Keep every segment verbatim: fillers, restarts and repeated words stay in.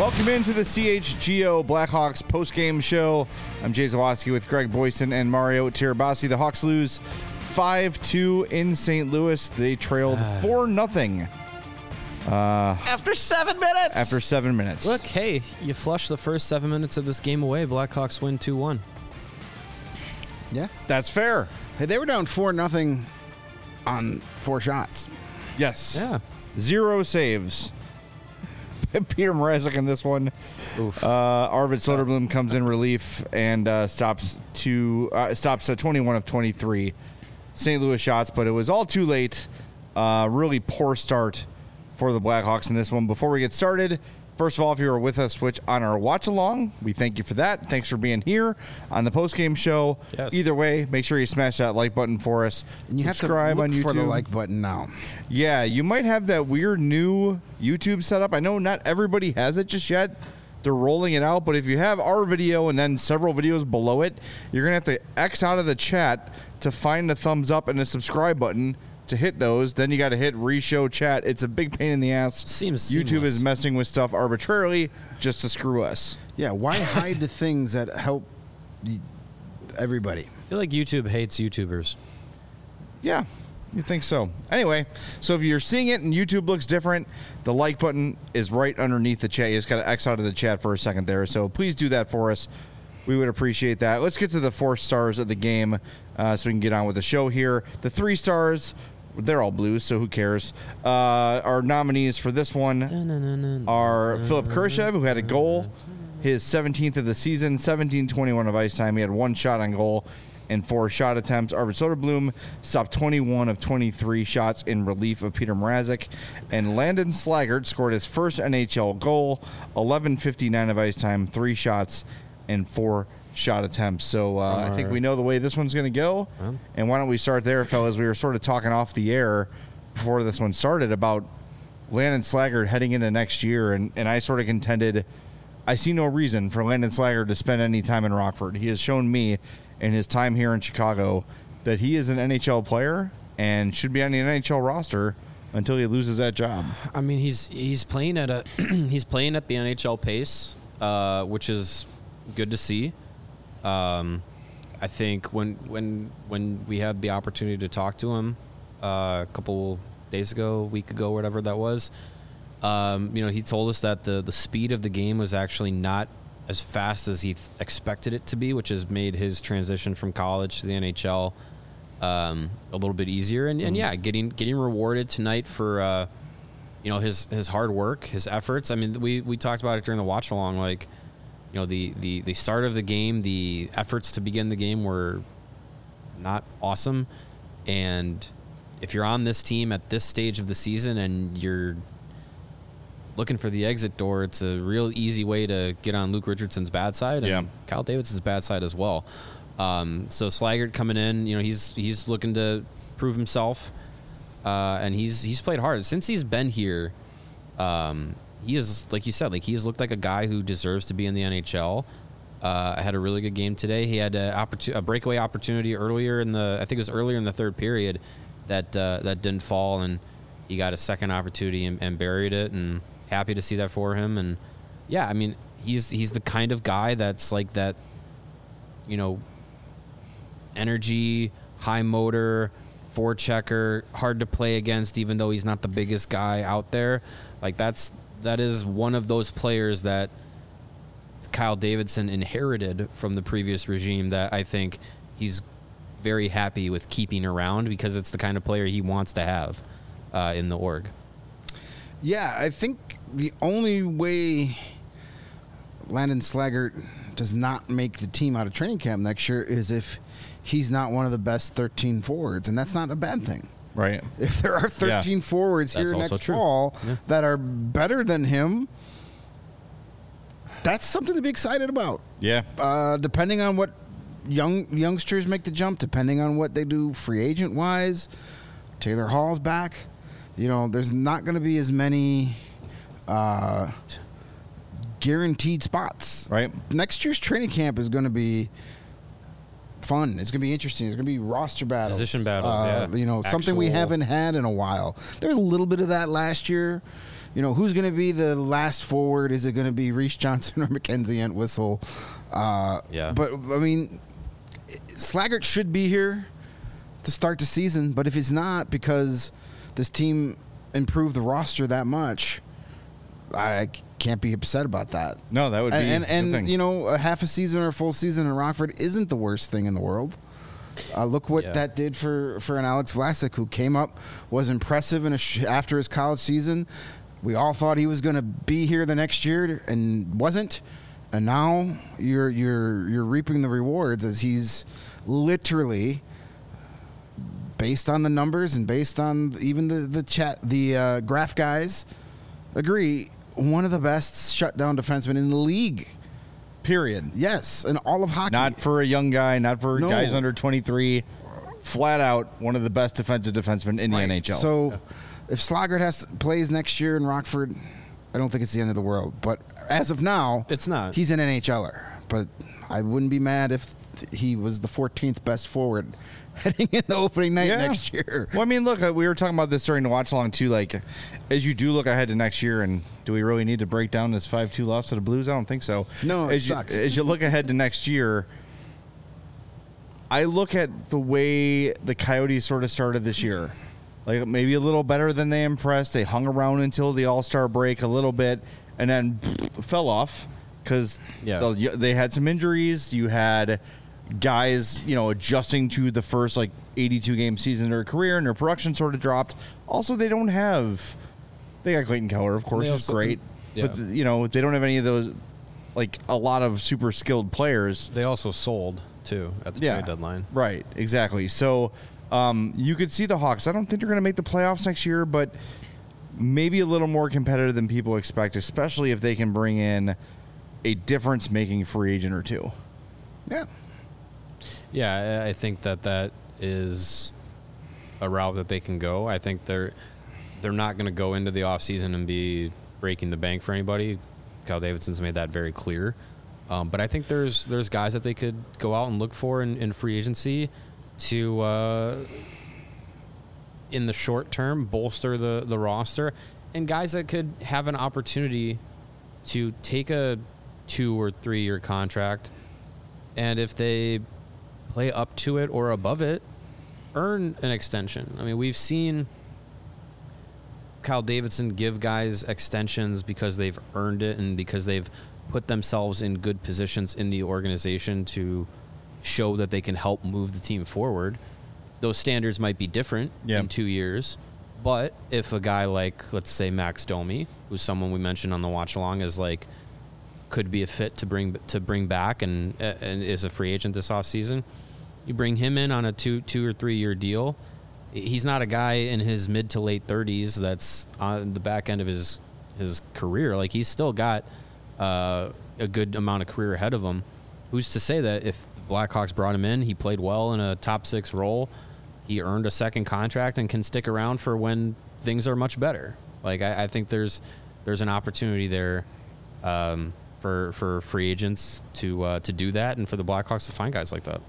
Welcome into the C H G O Blackhawks post-game show. I'm Jay Zawaski with Greg Boyson and Mario Tirabassi. The Hawks lose five two in Saint Louis. They trailed four nothing. Uh, after seven minutes. After seven minutes. Look, hey, you flush the first seven minutes of this game away. Blackhawks win two one. Yeah. That's fair. Hey, they were down four nothing on four shots. Yes. Yeah. Zero saves. Peter Mrazek in this one. Oof. Uh, Arvid Soderblom comes in relief and uh, stops to uh, stops at twenty-one of twenty-three Saint Louis shots, but it was all too late. Uh, really poor start for the Blackhawks in this one. Before we get started, first of all, if you were with us which on our watch along, we thank you for that. Thanks for being here on the post game show. Yes. Either way, make sure you smash that like button for us. And you Subscribe have to look on YouTube for the like button now. Yeah, you might have that weird new YouTube setup. I know not everybody has it just yet. They're rolling it out, but if you have our video and then several videos below it, you're going to have to X out of the chat to find the thumbs up and the subscribe button to hit those. Then you got to hit re-show chat. It's a big pain in the ass. Seems YouTube seamless. is messing with stuff arbitrarily just to screw us. Yeah, why hide the things that help the, everybody? I feel like YouTube hates YouTubers. Yeah, you think so. Anyway, so if you're seeing it and YouTube looks different, the like button is right underneath the chat. You just got to X out of the chat for a second there. So please do that for us. We would appreciate that. Let's get to the four stars of the game uh, so we can get on with the show here. The three stars, they're all blues, so who cares? Uh, our nominees for this one are Philip Kershev, who had a goal, his seventeenth of the season, seventeen twenty-one of ice time. He had one shot on goal and four shot attempts. Arvid Soderblom stopped twenty-one of twenty-three shots in relief of Peter Mrazek. And Landon Slaggert scored his first N H L goal, eleven fifty-nine of ice time, three shots and four shot attempts. So uh, I think we know the way this one's going to go. Well. And why don't we start there, fellas? We were sort of talking off the air before this one started about Landon Slaggert heading into next year, and, and I sort of contended I see no reason for Landon Slaggert to spend any time in Rockford. He has shown me in his time here in Chicago that he is an N H L player and should be on the N H L roster until he loses that job. I mean, he's he's playing at a he's playing at the N H L pace, uh, which is good to see. Um, I think when when when we had the opportunity to talk to him uh, a couple days ago, a week ago, whatever that was, um, you know, he told us that the the speed of the game was actually not as fast as he th- expected it to be, which has made his transition from college to the N H L um, a little bit easier. And, and yeah, getting getting rewarded tonight for uh, you know his his hard work, his efforts. I mean, we we talked about it during the watch along, like. You know, the, the, the start of the game, the efforts to begin the game were not awesome. And if you're on this team at this stage of the season and you're looking for the exit door, it's a real easy way to get on Luke Richardson's bad side and yeah. Kyle Davidson's bad side as well. Um, so Slaggert coming in, you know, he's he's looking to prove himself, uh, and he's he's played hard since he's been here. Um, He is, like you said, like he has looked like a guy who deserves to be in the N H L. Uh, had a really good game today. He had a, opportu- a breakaway opportunity earlier in the, I think it was earlier in the third period, that uh, that didn't fall, and he got a second opportunity and, and buried it. And happy to see that for him. And yeah, I mean, he's he's the kind of guy that's like that, you know, energy, high motor, forechecker, hard to play against, even though he's not the biggest guy out there. Like that's. That is one of those players that Kyle Davidson inherited from the previous regime that I think he's very happy with keeping around because it's the kind of player he wants to have uh, in the org. Yeah, I think the only way Landon Slaggert does not make the team out of training camp next year is if he's not one of the best thirteen forwards, and that's not a bad thing. Right. If there are thirteen yeah. forwards That's here also next true. fall yeah. that are better than him, that's something to be excited about. Yeah. Uh, depending on what young youngsters make the jump, depending on what they do free agent wise, Taylor Hall's back. You know, there's not going to be as many uh, guaranteed spots. Right. Next year's training camp is going to be fun. It's going to be interesting. It's going to be roster battles. Position battles, uh, yeah. You know, something we Actual- haven't had in a while. There was a little bit of that last year. you know, who's going to be the last forward? Is it going to be Reese Johnson or Mackenzie Entwistle? Uh, Yeah. But, I mean, Slaggert should be here to start the season, but if he's not because this team improved the roster that much, I can't be upset about that. No, that would be and the and, thing. and you know, a half a season or a full season in Rockford isn't the worst thing in the world. Uh, look what Yeah. that did for, for an Alex Vlasic who came up, was impressive in a sh- after his college season. We all thought he was going to be here the next year and wasn't. And now you're you're you're reaping the rewards as he's literally, based on the numbers and based on even the the chat the uh, graph guys agree, one of the best shutdown defensemen in the league. Period. Yes, in all of hockey. Not for a young guy, not for No. guys under twenty-three. Flat out, one of the best defensive defensemen in the Right. N H L. So, if Slaggert has to, plays next year in Rockford, I don't think it's the end of the world. But as of now, It's not. He's an N H L er. But I wouldn't be mad if th- he was the fourteenth best forward heading in the opening night Yeah. next year. Well, I mean, look, uh, we were talking about this during the watch along too. Like, as you do look ahead to next year, and do we really need to break down this five two loss to the Blues? I don't think so. No, it as you, sucks. as you look ahead to next year, I look at the way the Coyotes sort of started this year. Like, maybe a little better than they impressed. They hung around until the All-Star break a little bit, and then fell off because Yeah. they had some injuries. You had guys, you know, adjusting to the first like eighty-two game season of their career, and their production sort of dropped. Also, they don't have. They got Clayton Keller, of course, They who's also- great, yeah. but you know they don't have any of those, like a lot of super skilled players. They also sold too at the Yeah, trade deadline. right, exactly. So um, you could see the Hawks. I don't think they're going to make the playoffs next year, but maybe a little more competitive than people expect, especially if they can bring in a difference-making free agent or two. Yeah. Yeah, I I think that that is a route that they can go. I think they're they're not going to go into the offseason and be breaking the bank for anybody. Kyle Davidson's made that very clear. Um, but I think there's there's guys that they could go out and look for in, in free agency to, uh, in the short term, bolster the, the roster, and guys that could have an opportunity to take a two or three year contract, and if they play up to it or above it, earn an extension. I mean, we've seen Kyle Davidson give guys extensions because they've earned it and because they've put themselves in good positions in the organization to show that they can help move the team forward. Those standards might be different Yeah. in two years, but if a guy like, let's say, Max Domi, who's someone we mentioned on the watch along, is like could be a fit to bring to bring back and and is a free agent this offseason, you bring him in on a two two or three year deal. He's not a guy in his mid to late thirties that's on the back end of his his career. Like, he's still got uh, a good amount of career ahead of him. Who's to say that if the Blackhawks brought him in, he played well in a top six role, he earned a second contract and can stick around for when things are much better. Like, I, I think there's there's an opportunity there um, for for free agents to uh, to do that, and for the Blackhawks to find guys like that.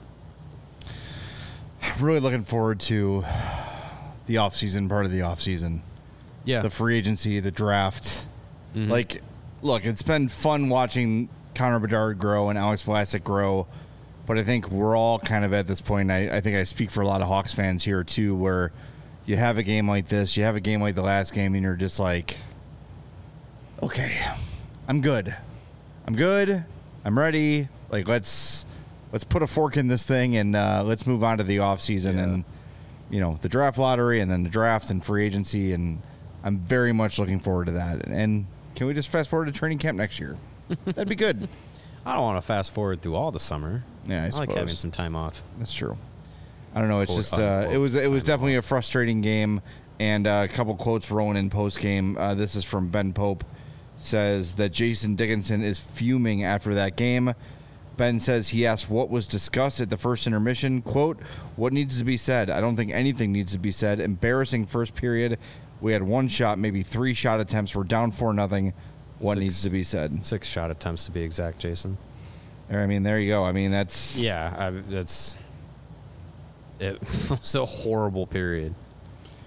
I'm really looking forward to the offseason, part of the offseason. Yeah, The free agency, the draft. Mhm. Like, look, it's been fun watching Connor Bedard grow and Alex Vlasic grow, but I think we're all kind of at this point, I, I think I speak for a lot of Hawks fans here too, where you have a game like this, you have a game like the last game, and you're just like, okay, I'm good. I'm good. I'm ready. Like, let's let's put a fork in this thing and uh, let's move on to the offseason Yeah. and, you know, the draft lottery and then the draft and free agency, and I'm very much looking forward to that. And can we just fast forward to training camp next year? That'd be good. I don't want to fast forward through all the summer. Yeah, I, I like having suppose. some time off. That's true. I don't know. It's Quote, just uh, unquote, it was it was time definitely a frustrating game, and uh, a couple quotes rolling in post game. Uh, this is from Ben Pope. Says that Jason Dickinson is fuming after that game. Ben says he asked what was discussed at the first intermission. Quote, what needs to be said? I don't think anything needs to be said. Embarrassing first period. We had one shot, maybe three shot attempts. We're down four nothing. What Six. needs to be said? Six shot attempts to be exact, Jason. I mean, there you go. I mean, that's Yeah, I, that's it. was a horrible period.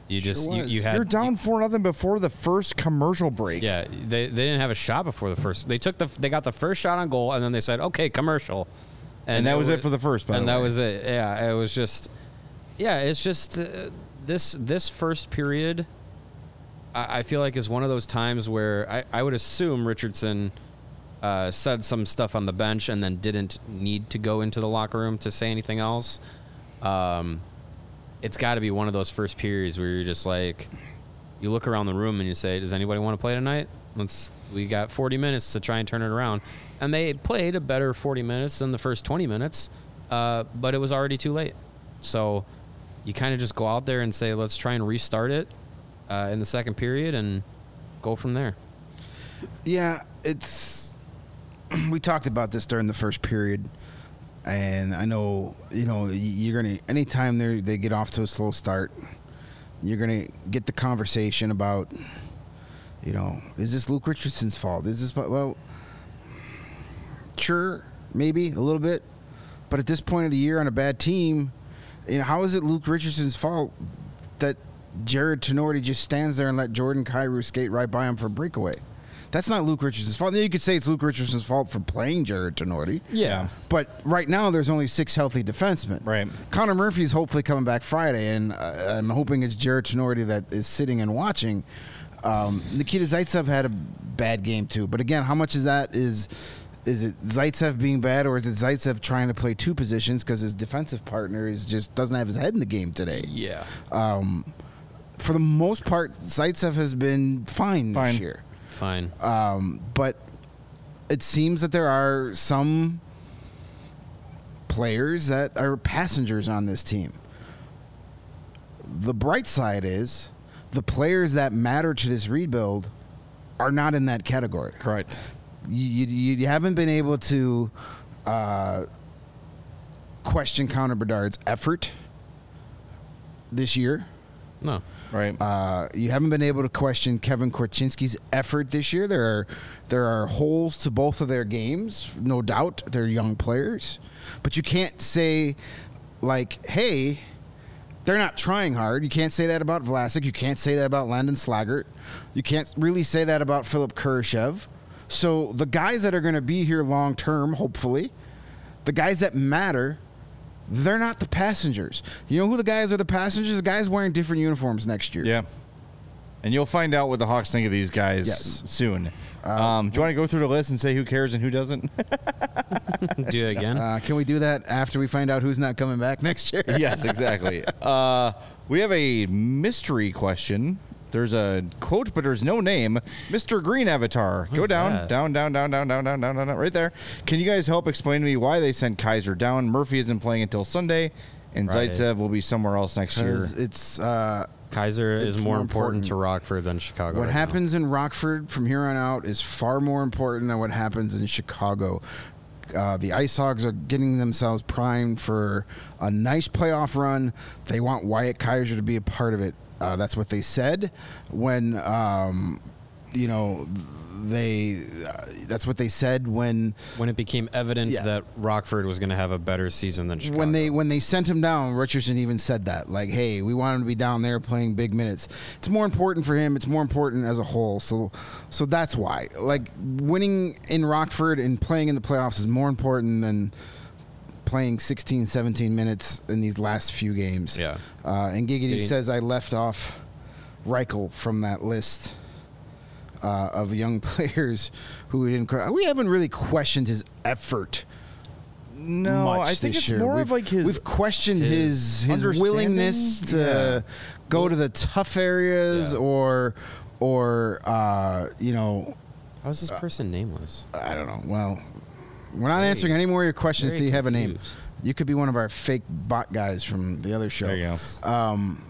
You just Sure you, was. you had You're down four nothing before the first commercial break. Yeah, they they didn't have a shot before the first. They took the they got the first shot on goal, and then they said, "Okay, commercial," And that was it for the first, by and the that way. was it. Yeah, it was just, yeah, it's just uh, this this first period. I, I feel like is one of those times where I, I would assume Richardson uh, said some stuff on the bench and then didn't need to go into the locker room to say anything else. Um, it's got to be one of those first periods where you're just like, you look around the room and you say, does anybody want to play tonight? Let's, we got forty minutes to try and turn it around. And they played a better forty minutes than the first twenty minutes, uh, but it was already too late. So you kind of just go out there and say, let's try and restart it uh, in the second period and go from there. Yeah, it's. We talked about this during the first period, and I know you know you're gonna anytime they they get off to a slow start, you're gonna get the conversation about, you know, is this Luke Richardson's fault? Is this well, sure, maybe a little bit, but at this point of the year on a bad team, you know, how is it Luke Richardson's fault that Jared Tenorti just stands there and let Jordan Kyrou skate right by him for a breakaway? That's not Luke Richardson's fault. You could say it's Luke Richardson's fault for playing Jared Tenorti. Yeah. But right now, there's only six healthy defensemen. Right. Connor Murphy's hopefully coming back Friday, and uh, I'm hoping it's Jared Tenorti that is sitting and watching. Um, Nikita Zaitsev had a bad game too. But again, how much is that is is it Zaitsev being bad, or is it Zaitsev trying to play two positions because his defensive partner is just doesn't have his head in the game today? Yeah. Um, for the most part, Zaitsev has been fine, Fine. this year. Fine. Um, but it seems that there are some players that are passengers on this team. The bright side is the players that matter to this rebuild are not in that category. Correct. You, you, you haven't been able to uh, question Connor Bedard's effort this year. No. Right. Uh, you haven't been able to question Kevin Korchinski's effort this year. There are there are holes to both of their games, no doubt. They're young players, but you can't say like, "Hey, they're not trying hard." You can't say that about Vlasic. You can't say that about Landon Slaggert. You can't really say that about Philip Kurashev. So the guys that are going to be here long term, hopefully, the guys that matter, they're not the passengers. You know who the guys are the passengers? The guys wearing different uniforms next year. Yeah. And you'll find out what the Hawks think of these guys Yes. soon. Um, do you want to go through the list and say who cares and who doesn't? Do it again. Uh, can we do that after we find out who's not coming back next year? Yes, exactly. Uh, we have a mystery question. There's a quote, but there's no name. Mister Green Avatar. Go Who's down, that? down, down, down, down, down, down, down, down, down, right there. Can you guys help explain to me why they sent Kaiser down? Murphy isn't playing until Sunday, and Right. Zaitsev will be somewhere else next year. 'Cause it's uh, Kaiser It's is more, more important, important. to Rockford than Chicago. what right now. happens in Rockford from here on out is far more important than what happens in Chicago. Uh, the Ice Hogs are getting themselves primed for a nice playoff run. They want Wyatt Kaiser to be a part of it. Uh, that's what they said when, um, you know, they. Uh, that's what they said when When it became evident Yeah. that Rockford was going to have a better season than Chicago. when they when they sent him down. Richardson even said that, like, "Hey, we want him to be down there playing big minutes. It's more important for him. It's more important as a whole." So, so that's why, like, winning in Rockford and playing in the playoffs is more important than playing sixteen, seventeen minutes in these last few games. Yeah. Uh, and Giggity Getting- says I left off Reichel from that list uh, of young players who we didn't. que- We haven't really questioned his effort. no, much I think this it's year. more We've- of like his. We've questioned his his, understanding? willingness to Yeah. go to the tough areas, Yeah. or or uh, you know, How's this person nameless? I don't know. Well, we're not Very- answering any more of your questions. very Do you have a name? confused. You could be one of our fake bot guys from the other show. There you go. Um,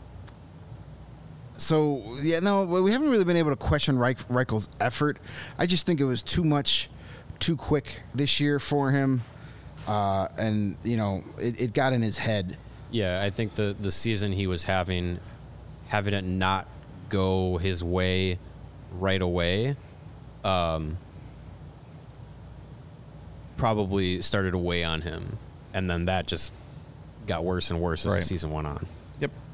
so yeah, no, well, we haven't really been able to question Reich, Reichel's effort. I just think it was too much, too quick this year for him, uh, and you know, it, it got in his head. Yeah, I think the the season he was having, having it not go his way right away, um, probably started to weigh on him, and then that just got worse and worse as Right. the season went on. Yep. All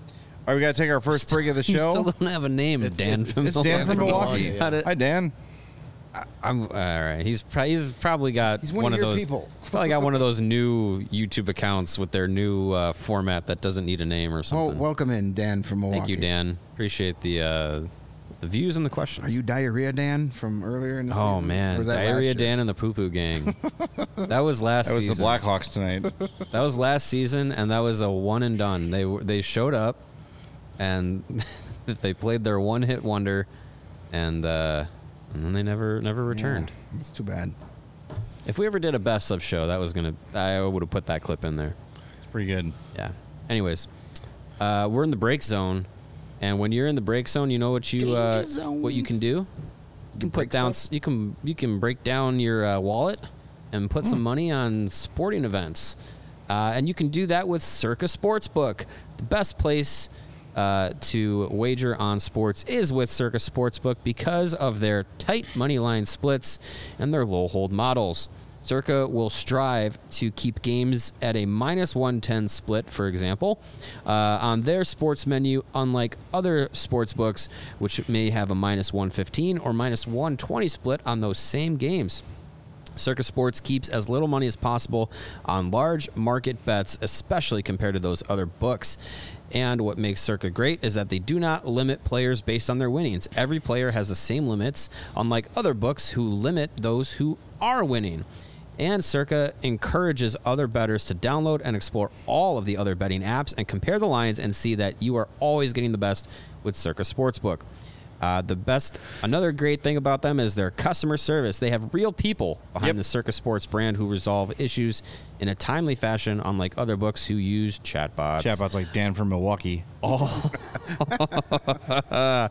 right, we got to take our first break of the You show. still don't have a name, It's- Dan. it's- from It's Dan from Milwaukee. How did- Hi, Dan. I'm all right. He's pro- he's probably got He's one of of your those people. he's probably got one of those new YouTube accounts with their new uh, format that doesn't need a name or Well, something. welcome in, Dan from Milwaukee. Thank you, Dan. Appreciate the uh, the views and the questions. Are you Diarrhea Dan from earlier in the season? Oh Or man, was that last Diarrhea year? Dan and the Poo Poo Gang. That was last That was season. the Blackhawks tonight. That was last season, and that was a one and done. They were- they showed up, and they played their one hit wonder, and uh, and then they never never returned. Yeah, it's too bad. If we ever did a best of show, that was gonna I would have put that clip in there. It's pretty good. Yeah. Anyways, uh, we're in the break zone, and when you're in the break zone, you know what you uh, Danger zone. what you can do. You can put break down. stuff? You can you can break down your uh, wallet and put Hmm. some money on sporting events, uh, and you can do that with Circa Sportsbook, the best place uh, to wager on sports is with Circa Sportsbook because of their tight money line splits and their low hold models. Circa will strive to keep games at a minus one ten split, for example, uh, on their sports menu, unlike other sports books, which may have a minus one fifteen or minus one twenty split on those same games. Circa Sports keeps as little money as possible on large market bets, especially compared to those other books. And what makes Circa great is that they do not limit players based on their winnings. Every player has the same limits, unlike other books who limit those who are winning. And Circa encourages other bettors to download and explore all of the other betting apps and compare the lines and see that you are always getting the best with Circa Sportsbook. Uh, the best, another great thing about them is their customer service. They have real people behind Yep. the Circa Sports brand who resolve issues in a timely fashion, unlike other books who use chatbots. Chatbots like Dan from Milwaukee. Uh,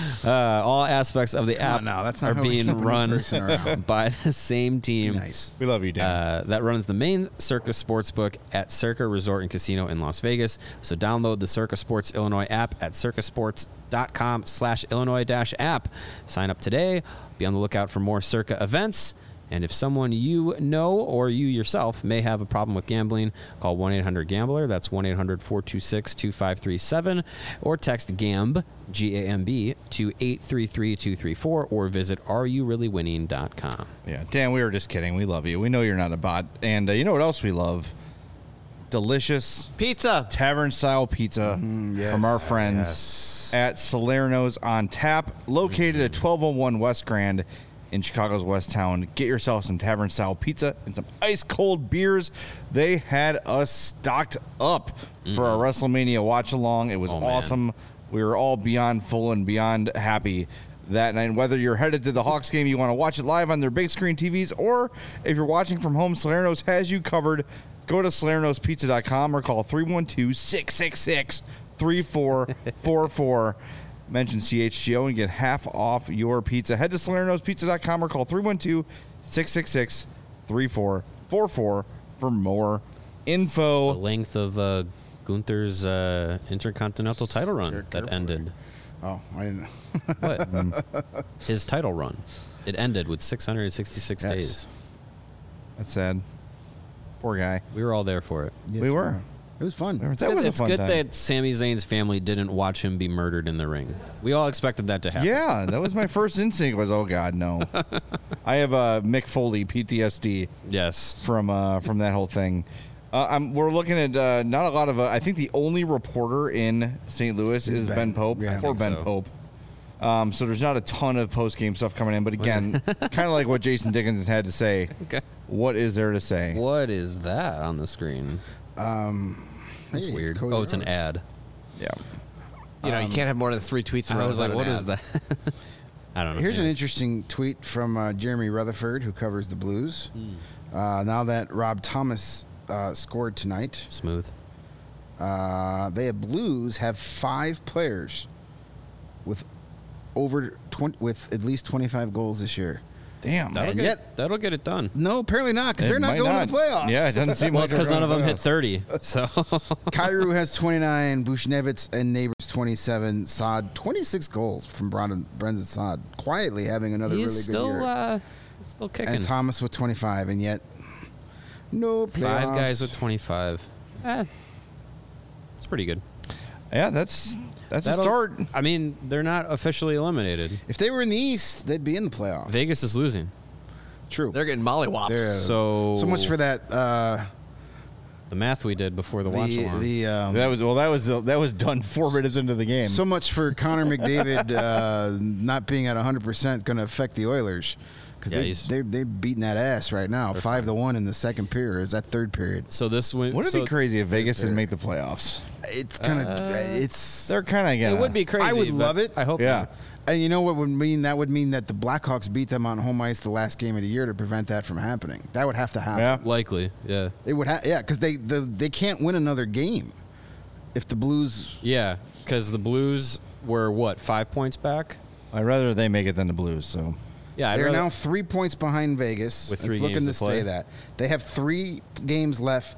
all aspects of the Come app on now, that's not are how we being keep a new run person around. by the same team. Nice. We love you, Dan. Uh, that runs the main Circa Sportsbook at Circa Resort and Casino in Las Vegas. So download the Circa Sports Illinois app at circasports.com slash Illinois dash app. Sign up today. Be on the lookout for more Circa events. And if someone you know or you yourself may have a problem with gambling, call one eight hundred gambler. That's one eight hundred four two six two five three seven. Or text GAMB, G A M B, to eight three three two three four or visit are you really winning dot com. Yeah, Dan, we were just kidding. We love you. We know you're not a bot. And uh, you know what else we love? Delicious Pizza. tavern-style pizza yes. from our friends at Salerno's on Tap, located at twelve oh one West Grand in Chicago's West Town. Get yourself some tavern-style pizza and some ice-cold beers. They had us stocked up for our WrestleMania watch-along. It was Oh, man. awesome. We were all beyond full and beyond happy that night. Whether you're headed to the Hawks game, you want to watch it live on their big screen T Vs, or if you're watching from home, Salerno's has you covered. Go to salernos pizza dot com or call three one two, six six six, three four four four. Mention C H G O and get half off your pizza. Head to salernos pizza dot com or call three one two, six six six, three four four four for more The info. length of uh, Gunther's uh, intercontinental title run Care- that careful ended. Oh, I didn't. What? His title run. It ended with six hundred sixty-six Yes. days. That's sad. Poor guy. We were all there for it. Yes, We were. It was fun. That was a it's fun good time. that Sami Zayn's family didn't watch him be murdered in the ring. We all expected that to happen. Yeah, that was my first instinct was, oh, God, no. I have uh, Mick Foley P T S D. Yes. from uh, from that whole thing. Uh, I'm, we're looking at uh, not a lot of. Uh, I think the only reporter in Saint Louis is Ben, Ben. Pope. Yeah, I Poor think Ben so. Pope. Um, so there's not a ton of post game stuff coming in, but again, kind of like what Jason Dickens had to say. Okay. What is there to say? What is that on the screen? Um, That's hey, it's weird. Cody Oh, it's an Rhodes. ad. Yeah, You know, you can't have more than three tweets in a I row. was like, without what an is ad. that? I don't know. Here's an Anyways. interesting tweet from uh, Jeremy Rutherford, who covers the Blues. Hmm. Uh, now that Rob Thomas uh, scored tonight, Smooth. uh, they have Blues have five players with over twenty with at least twenty-five goals this year. damn. That'll And get, yet- that'll get it done. No, apparently not, because It they're not might going not. to the playoffs. Yeah, it doesn't seem Well, like it's because they're none of going them to hit playoffs. thirty. So Kyrou has twenty-nine, Bushnevitz and Neighbors twenty-seven, Saad twenty-six goals from Brendan, Brendan Saad, quietly having another he's really still good year. uh, still kicking. And Thomas with twenty-five, and yet no playoffs. Five guys with twenty-five. Eh, it's pretty good. Yeah, that's that's a That'll- start. I mean, they're not officially eliminated. If they were in the East, they'd be in the playoffs. Vegas is losing. True. They're getting mollywopped. They're- So so much for that. Uh, the math we did before the, watch the along. the um, That was well. That was that was done four minutes into the game. so much for Connor McDavid uh, not being at one hundred percent going to affect the Oilers because Yeah, they he's- they they're beating that ass right now, five to one in the second period. Is that third period? so this win. Wouldn't so it be crazy if Vegas didn't make the playoffs? It's gonna. it's They're kind of gonna. It would be crazy. I would but love it. I hope. Yeah. not. And you know what would mean? That would mean that the Blackhawks beat them on home ice the last game of the year to prevent that from happening. That would have to happen. Yeah. Likely. Yeah. It would have. Yeah, because they the, they can't win another game if the Blues. Yeah. Because the Blues were what five points back. I'd rather they make it than the Blues. So Yeah. I'd They're rather- now three points behind Vegas. With It's three looking games to to play. stay that. They have three games left,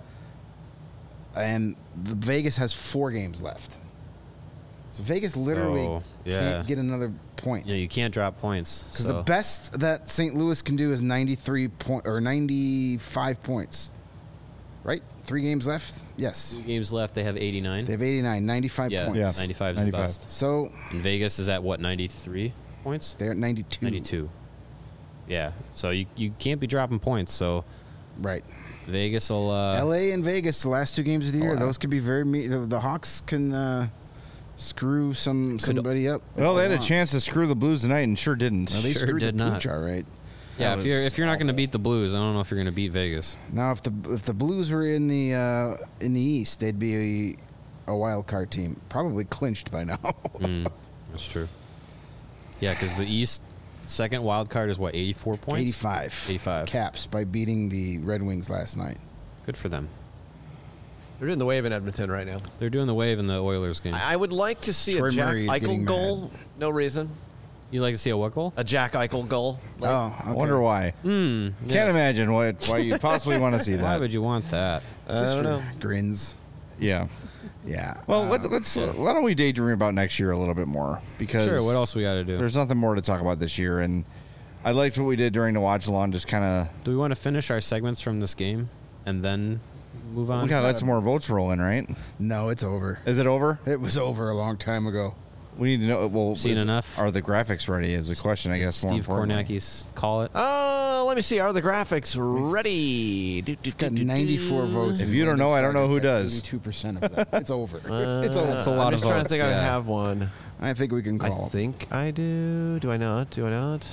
and the Vegas has four games left. So Vegas literally So, yeah. can't get another point. Yeah, you can't drop points. Because so. the best that Saint Louis can do is ninety-three point or ninety-five points. Right? Three games left? Yes. Two games left. They have eighty-nine. They have eighty-nine, ninety-five yeah, points. Yeah. ninety-five is ninety-five. the best. So And Vegas is at what ninety-three points. they're at ninety-two. ninety-two. Yeah. So you you can't be dropping points. So Right. Vegas will. Uh, L A and Vegas, the last two games of the year, wow. those could be very. Me- the, the Hawks can uh, screw some Could- somebody up. if well, they had a want. chance to screw the Blues tonight and sure didn't. No, they Sure screwed did the not. Pooch, all right. yeah. That If you're was if you're not going to beat the Blues, I don't know if you're going to beat Vegas. Now, if the if the Blues were in the uh, in the East, they'd be a, a wild card team, probably clinched by now. Mm, that's true. Yeah, because the East second wild card is what eighty-four points. eighty-five. eighty-five. Caps by beating the Red Wings last night. Good for them. They're doing the wave in Edmonton right now. They're doing the wave in the Oilers game. I I would like to see Troy a Jack Murray is Eichel getting goal. No reason. You like to see a what goal? A Jack Eichel goal. Like, Oh, I okay. wonder why. Mm, Can't imagine what why you possibly want to see Why that. would you want that? I Just don't for know. grins. Yeah. Yeah. Well, uh, let's, let's why don't we daydream about next year a little bit more? Because Sure. What else we got to do? There's nothing more to talk about this year, and I liked what we did during the watch along. Just kind of Do we want to finish our segments from this game and then move on? we gotta let some more votes roll in, right? No, it's over. Is it over? It was over a long time ago. We need to know. Well, Seen is- enough? Are the graphics ready? Is the question, I guess. more Steve importantly. Kornacki's call it. Uh, let me see. Are the graphics ready? Do, do, Got do, do, ninety-four do. votes. If you don't know, I don't know who does. Eighty-two percent of that. It's over. Uh, it's over. That's a lot I'm of just trying to votes, think I yeah. have one. I think we can I call. think I do. Do I not? Do I not?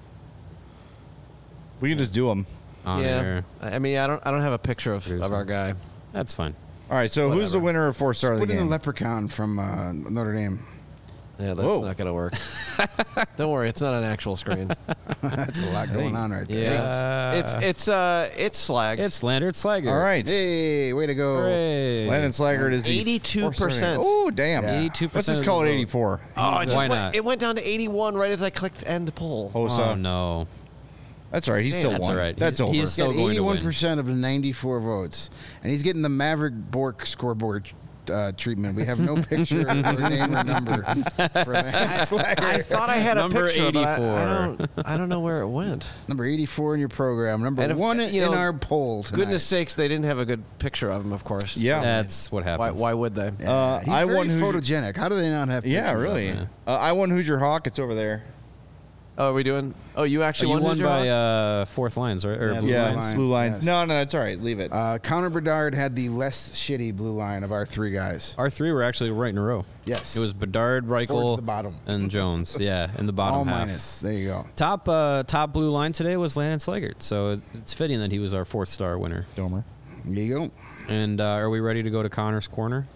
We can just do them. On yeah. air. I I mean, I don't. I don't have a picture of, of our guy. That's fine. All right. So who's the Whatever. winner of four star of the Put in the game? leprechaun from uh, Notre Dame. Yeah, that's Whoa. not gonna work. Don't worry, it's not an actual screen. That's a lot going on right there. Yeah, Uh, it's it's uh it's Slags. It's Landert Slager. All right. Hey, way to go. Hooray. Landon Slaggert is the eighty-two percent. Oh, damn. Yeah. eighty-two percent. Let's just call it eighty-four. Oh, it just Why went, not? It went down to eighty-one right as I clicked end poll. Hosa. Oh, no. That's all right. He's still That's won. all right. That's He's- over. he's He's still got going to eighty-one win. percent of the ninety-four votes, and he's getting the Maverick Bork scoreboard uh, treatment. We have no picture or name or number for that. I thought I had a Number picture, but I, I eighty-four. don't. I don't know where it went. Number eighty-four in your program. Number And if- one you in know, our poll tonight. Goodness sakes, they didn't have a good picture of him. Of course. Yeah. That's what Why? happens. Why would they? Yeah, Uh, he's I very won who's your- photogenic. How do they not have? Yeah, pictures of really. him? Uh, I won Who's Your Hawk. It's over there. Oh, are we doing? Oh, you actually you won. won Who's Your by Hawk? uh, fourth lines, right? Or Yeah, blue yeah, lines? lines, blue lines. yes. No, no, it's all right. Leave it. Uh, Connor Bedard had the less shitty blue line of our three guys. Our three were actually right in a row. Yes. It was Bedard, Towards Reichel, the bottom. and Jones. Yeah, in the bottom All half. minus. There you go. Top uh, top blue line today was Landon Slaggert, so it- it's fitting that he was our fourth star winner. Domer. There you go. And uh, are we ready to go to Connor's corner?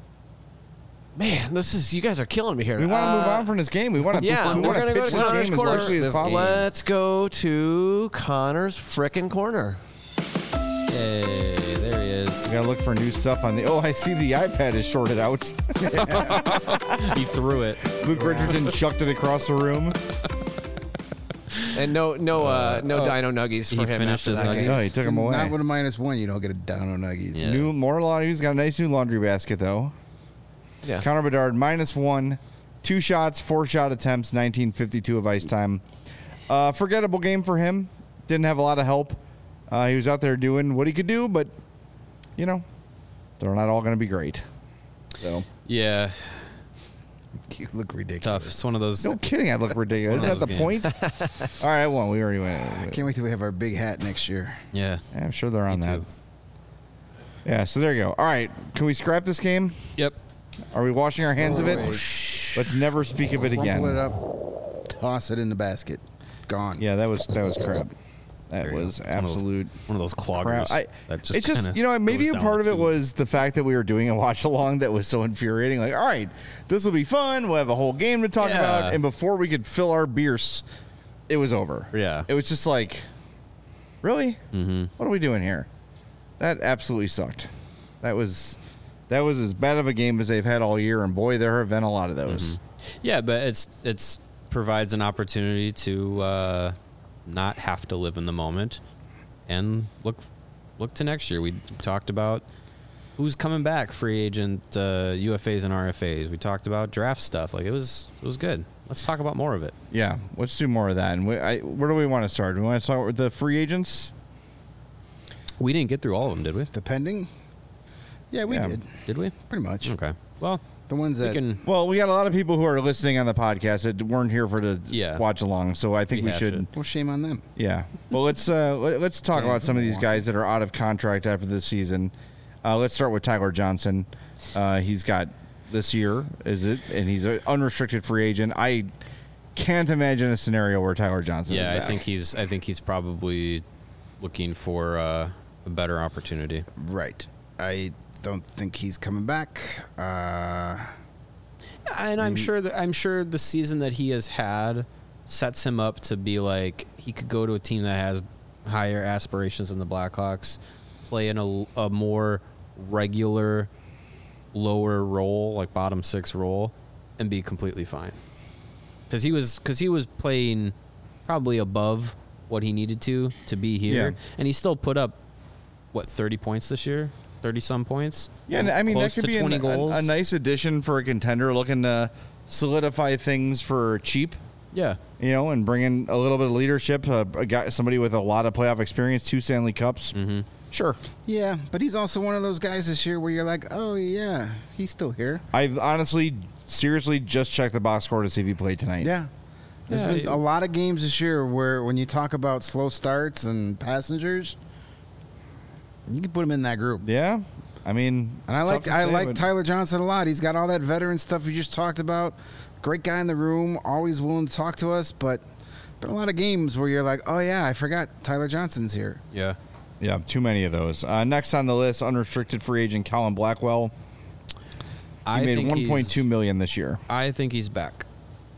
Man, this is. You guys are killing me here. We want to Uh, move on from this game. We want to. Yeah, we we're want gonna to go pitch to this Connor's game as corner. quickly as possible. Let's go to Connor's frickin' corner. Hey, there he We is. gotta look for new stuff on the. Oh, I see the iPad is shorted out. He threw it. Luke Richardson chucked it across the room. And no, no, uh, no oh, Dino Nuggies he for him finished after his that nuggies. game. Oh, he took him away. Not with a minus one. You don't get a down on nuggies. Yeah. New more laundry. He's got a nice new laundry basket though. Yeah. Connor Bedard minus one, two shots, four shot attempts, nineteen fifty-two of ice time. Uh, forgettable game for him. Didn't have a lot of help. Uh, he was out there doing what he could do, but you know, they're not all going to be great. So Yeah, You look ridiculous. tough. It's one of those. no kidding, I look ridiculous. One Is of that the those point? All right, well, we already went. Can't wait till we have our big hat next year. Yeah. Yeah, I'm sure they're on Me that. too. Yeah, so there you go. All right, can we scrap this game? Yep. Are we washing our hands of it? Wait. Let's never speak of it again. Crumple it up, toss it in the basket. Gone. Yeah, that was that was crap. That There you was go. It's one of those- absolute One of those crap. cloggers. I, that just it's just kinda you know maybe goes a down part the of it tube. was the fact that we were doing a watch along that was so infuriating. Like, all right, this will be fun. We'll have a whole game to talk Yeah. about, and before we could fill our beers, it was over. Yeah. it was just like, really, Mhm. what are we doing here? That absolutely sucked. That was that was as bad of a game as they've had all year, and boy, there have been a lot of those. Yeah, but it's it's provides an opportunity to uh, not have to live in the moment and look look to next year. We talked about who's coming back, free agent, uh, U F As and R F As. We talked about draft stuff. Like it was it was good. Let's talk about more of it. Yeah, let's do more of that. And we, I, where do we want to start? Do we want to start with the free agents? We didn't get through all of them, did we? The pending? Yeah, we Yeah. did. Did we? Pretty much. Okay. Well, The ones we that can. Well, we got a lot of people who are listening on the podcast that weren't here for the Yeah. watch along, so I think we Rehash should. it. well, shame on them. Yeah. Well, let's uh, let, let's talk Damn, about some of these Milwaukee. guys that are out of contract after this season. Uh, let's start with Tyler Johnson. Uh, he's got this year, is it? And he's an unrestricted free agent. I can't imagine a scenario where Tyler Johnson. Yeah, is I back. think he's. I think he's probably looking for uh, a better opportunity. Right. I don't think he's coming back. Uh, And I'm sure that I'm sure the season that he has had sets him up to be like he could go to a team that has higher aspirations than the Blackhawks, play in a, a more regular, lower role, like bottom six role, and be completely fine. Because he was because he was playing probably above what he needed to to be here, Yeah. and he still put up what thirty points this year. thirty some points. Yeah, and I mean that Close could to be an, twenty a, goals. a nice addition for a contender looking to solidify things for cheap. Yeah. You know, and bring in a little bit of leadership. Uh, a guy, somebody with a lot of playoff experience, two Stanley Cups. Mm-hmm. Sure. yeah, but he's also one of those guys this year where you're like, oh, yeah, he's still here. I honestly, seriously, just checked the box score to see if he played tonight. Yeah. There's Yeah, been it- a lot of games this year where when you talk about slow starts and passengers, you can put him in that group. Yeah. I mean, And I it's like tough to I say, like but- Tyler Johnson a lot. He's got all that veteran stuff we just talked about. Great guy in the room, always willing to talk to us. But been a lot of games where you're like, oh yeah, I forgot Tyler Johnson's here. Yeah. Yeah, too many of those. Uh, next on the list, unrestricted free agent Colin Blackwell. He I made think one point two he's- million this year. I think he's back.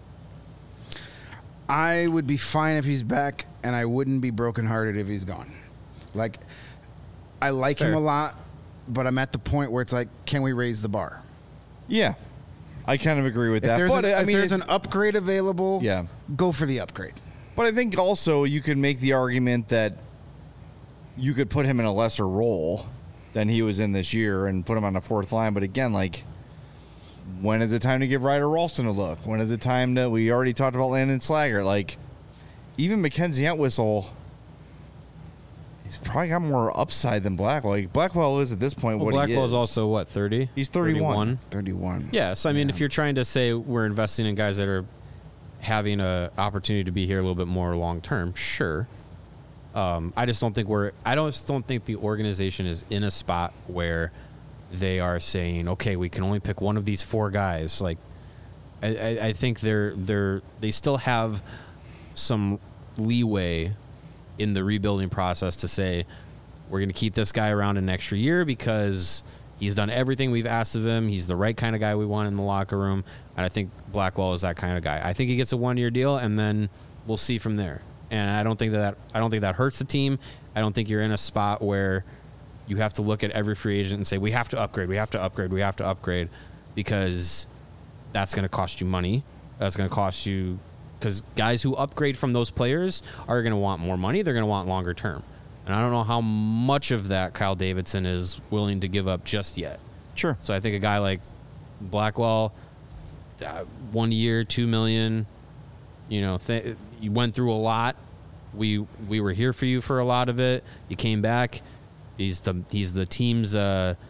I would be fine if he's back, and I wouldn't be brokenhearted if he's gone. Like, I like him Fair. a lot, but I'm at the point where it's like, can we raise the bar? Yeah, I kind of agree with If that. there's, But an, I if mean, there's if- an upgrade available, Yeah. go for the upgrade. But I think also you could make the argument that you could put him in a lesser role than he was in this year and put him on the fourth line. But again, like, when is it time to give Ryder Ralston a look? When is it time to? We already talked about Landon Slager. Like, even Mackenzie Entwistle, he's probably got more upside than Blackwell. Like, Blackwell is at this point Well, what Blackwell he is is. also what thirty. He's thirty-one. thirty-one. Yeah. So I mean, if you're trying to say we're investing in guys that are having a opportunity to be here a little bit more long term, sure. Um, I just don't think we're. I don't just don't think the organization is in a spot where they are saying, okay, we can only pick one of these four guys. Like, I, I, I think they're they're they still have some leeway in the rebuilding process to say we're going to keep this guy around an extra year because he's done everything we've asked of him. He's the right kind of guy we want in the locker room, and I think Blackwell is that kind of guy. I think he gets a one-year deal, and then we'll see from there. And I don't think that, that I don't think that hurts the team. I don't think you're in a spot where you have to look at every free agent and say we have to upgrade, we have to upgrade, we have to upgrade, because that's going to cost you money. That's going to cost you because guys who upgrade from those players are going to want more money. They're going to want longer term. And I don't know how much of that Kyle Davidson is willing to give up just yet. Sure. So I think a guy like Blackwell, uh, one year, two million. You know, th- you went through a lot. We we were here for you for a lot of it. You came back. He's the he's the team's uh,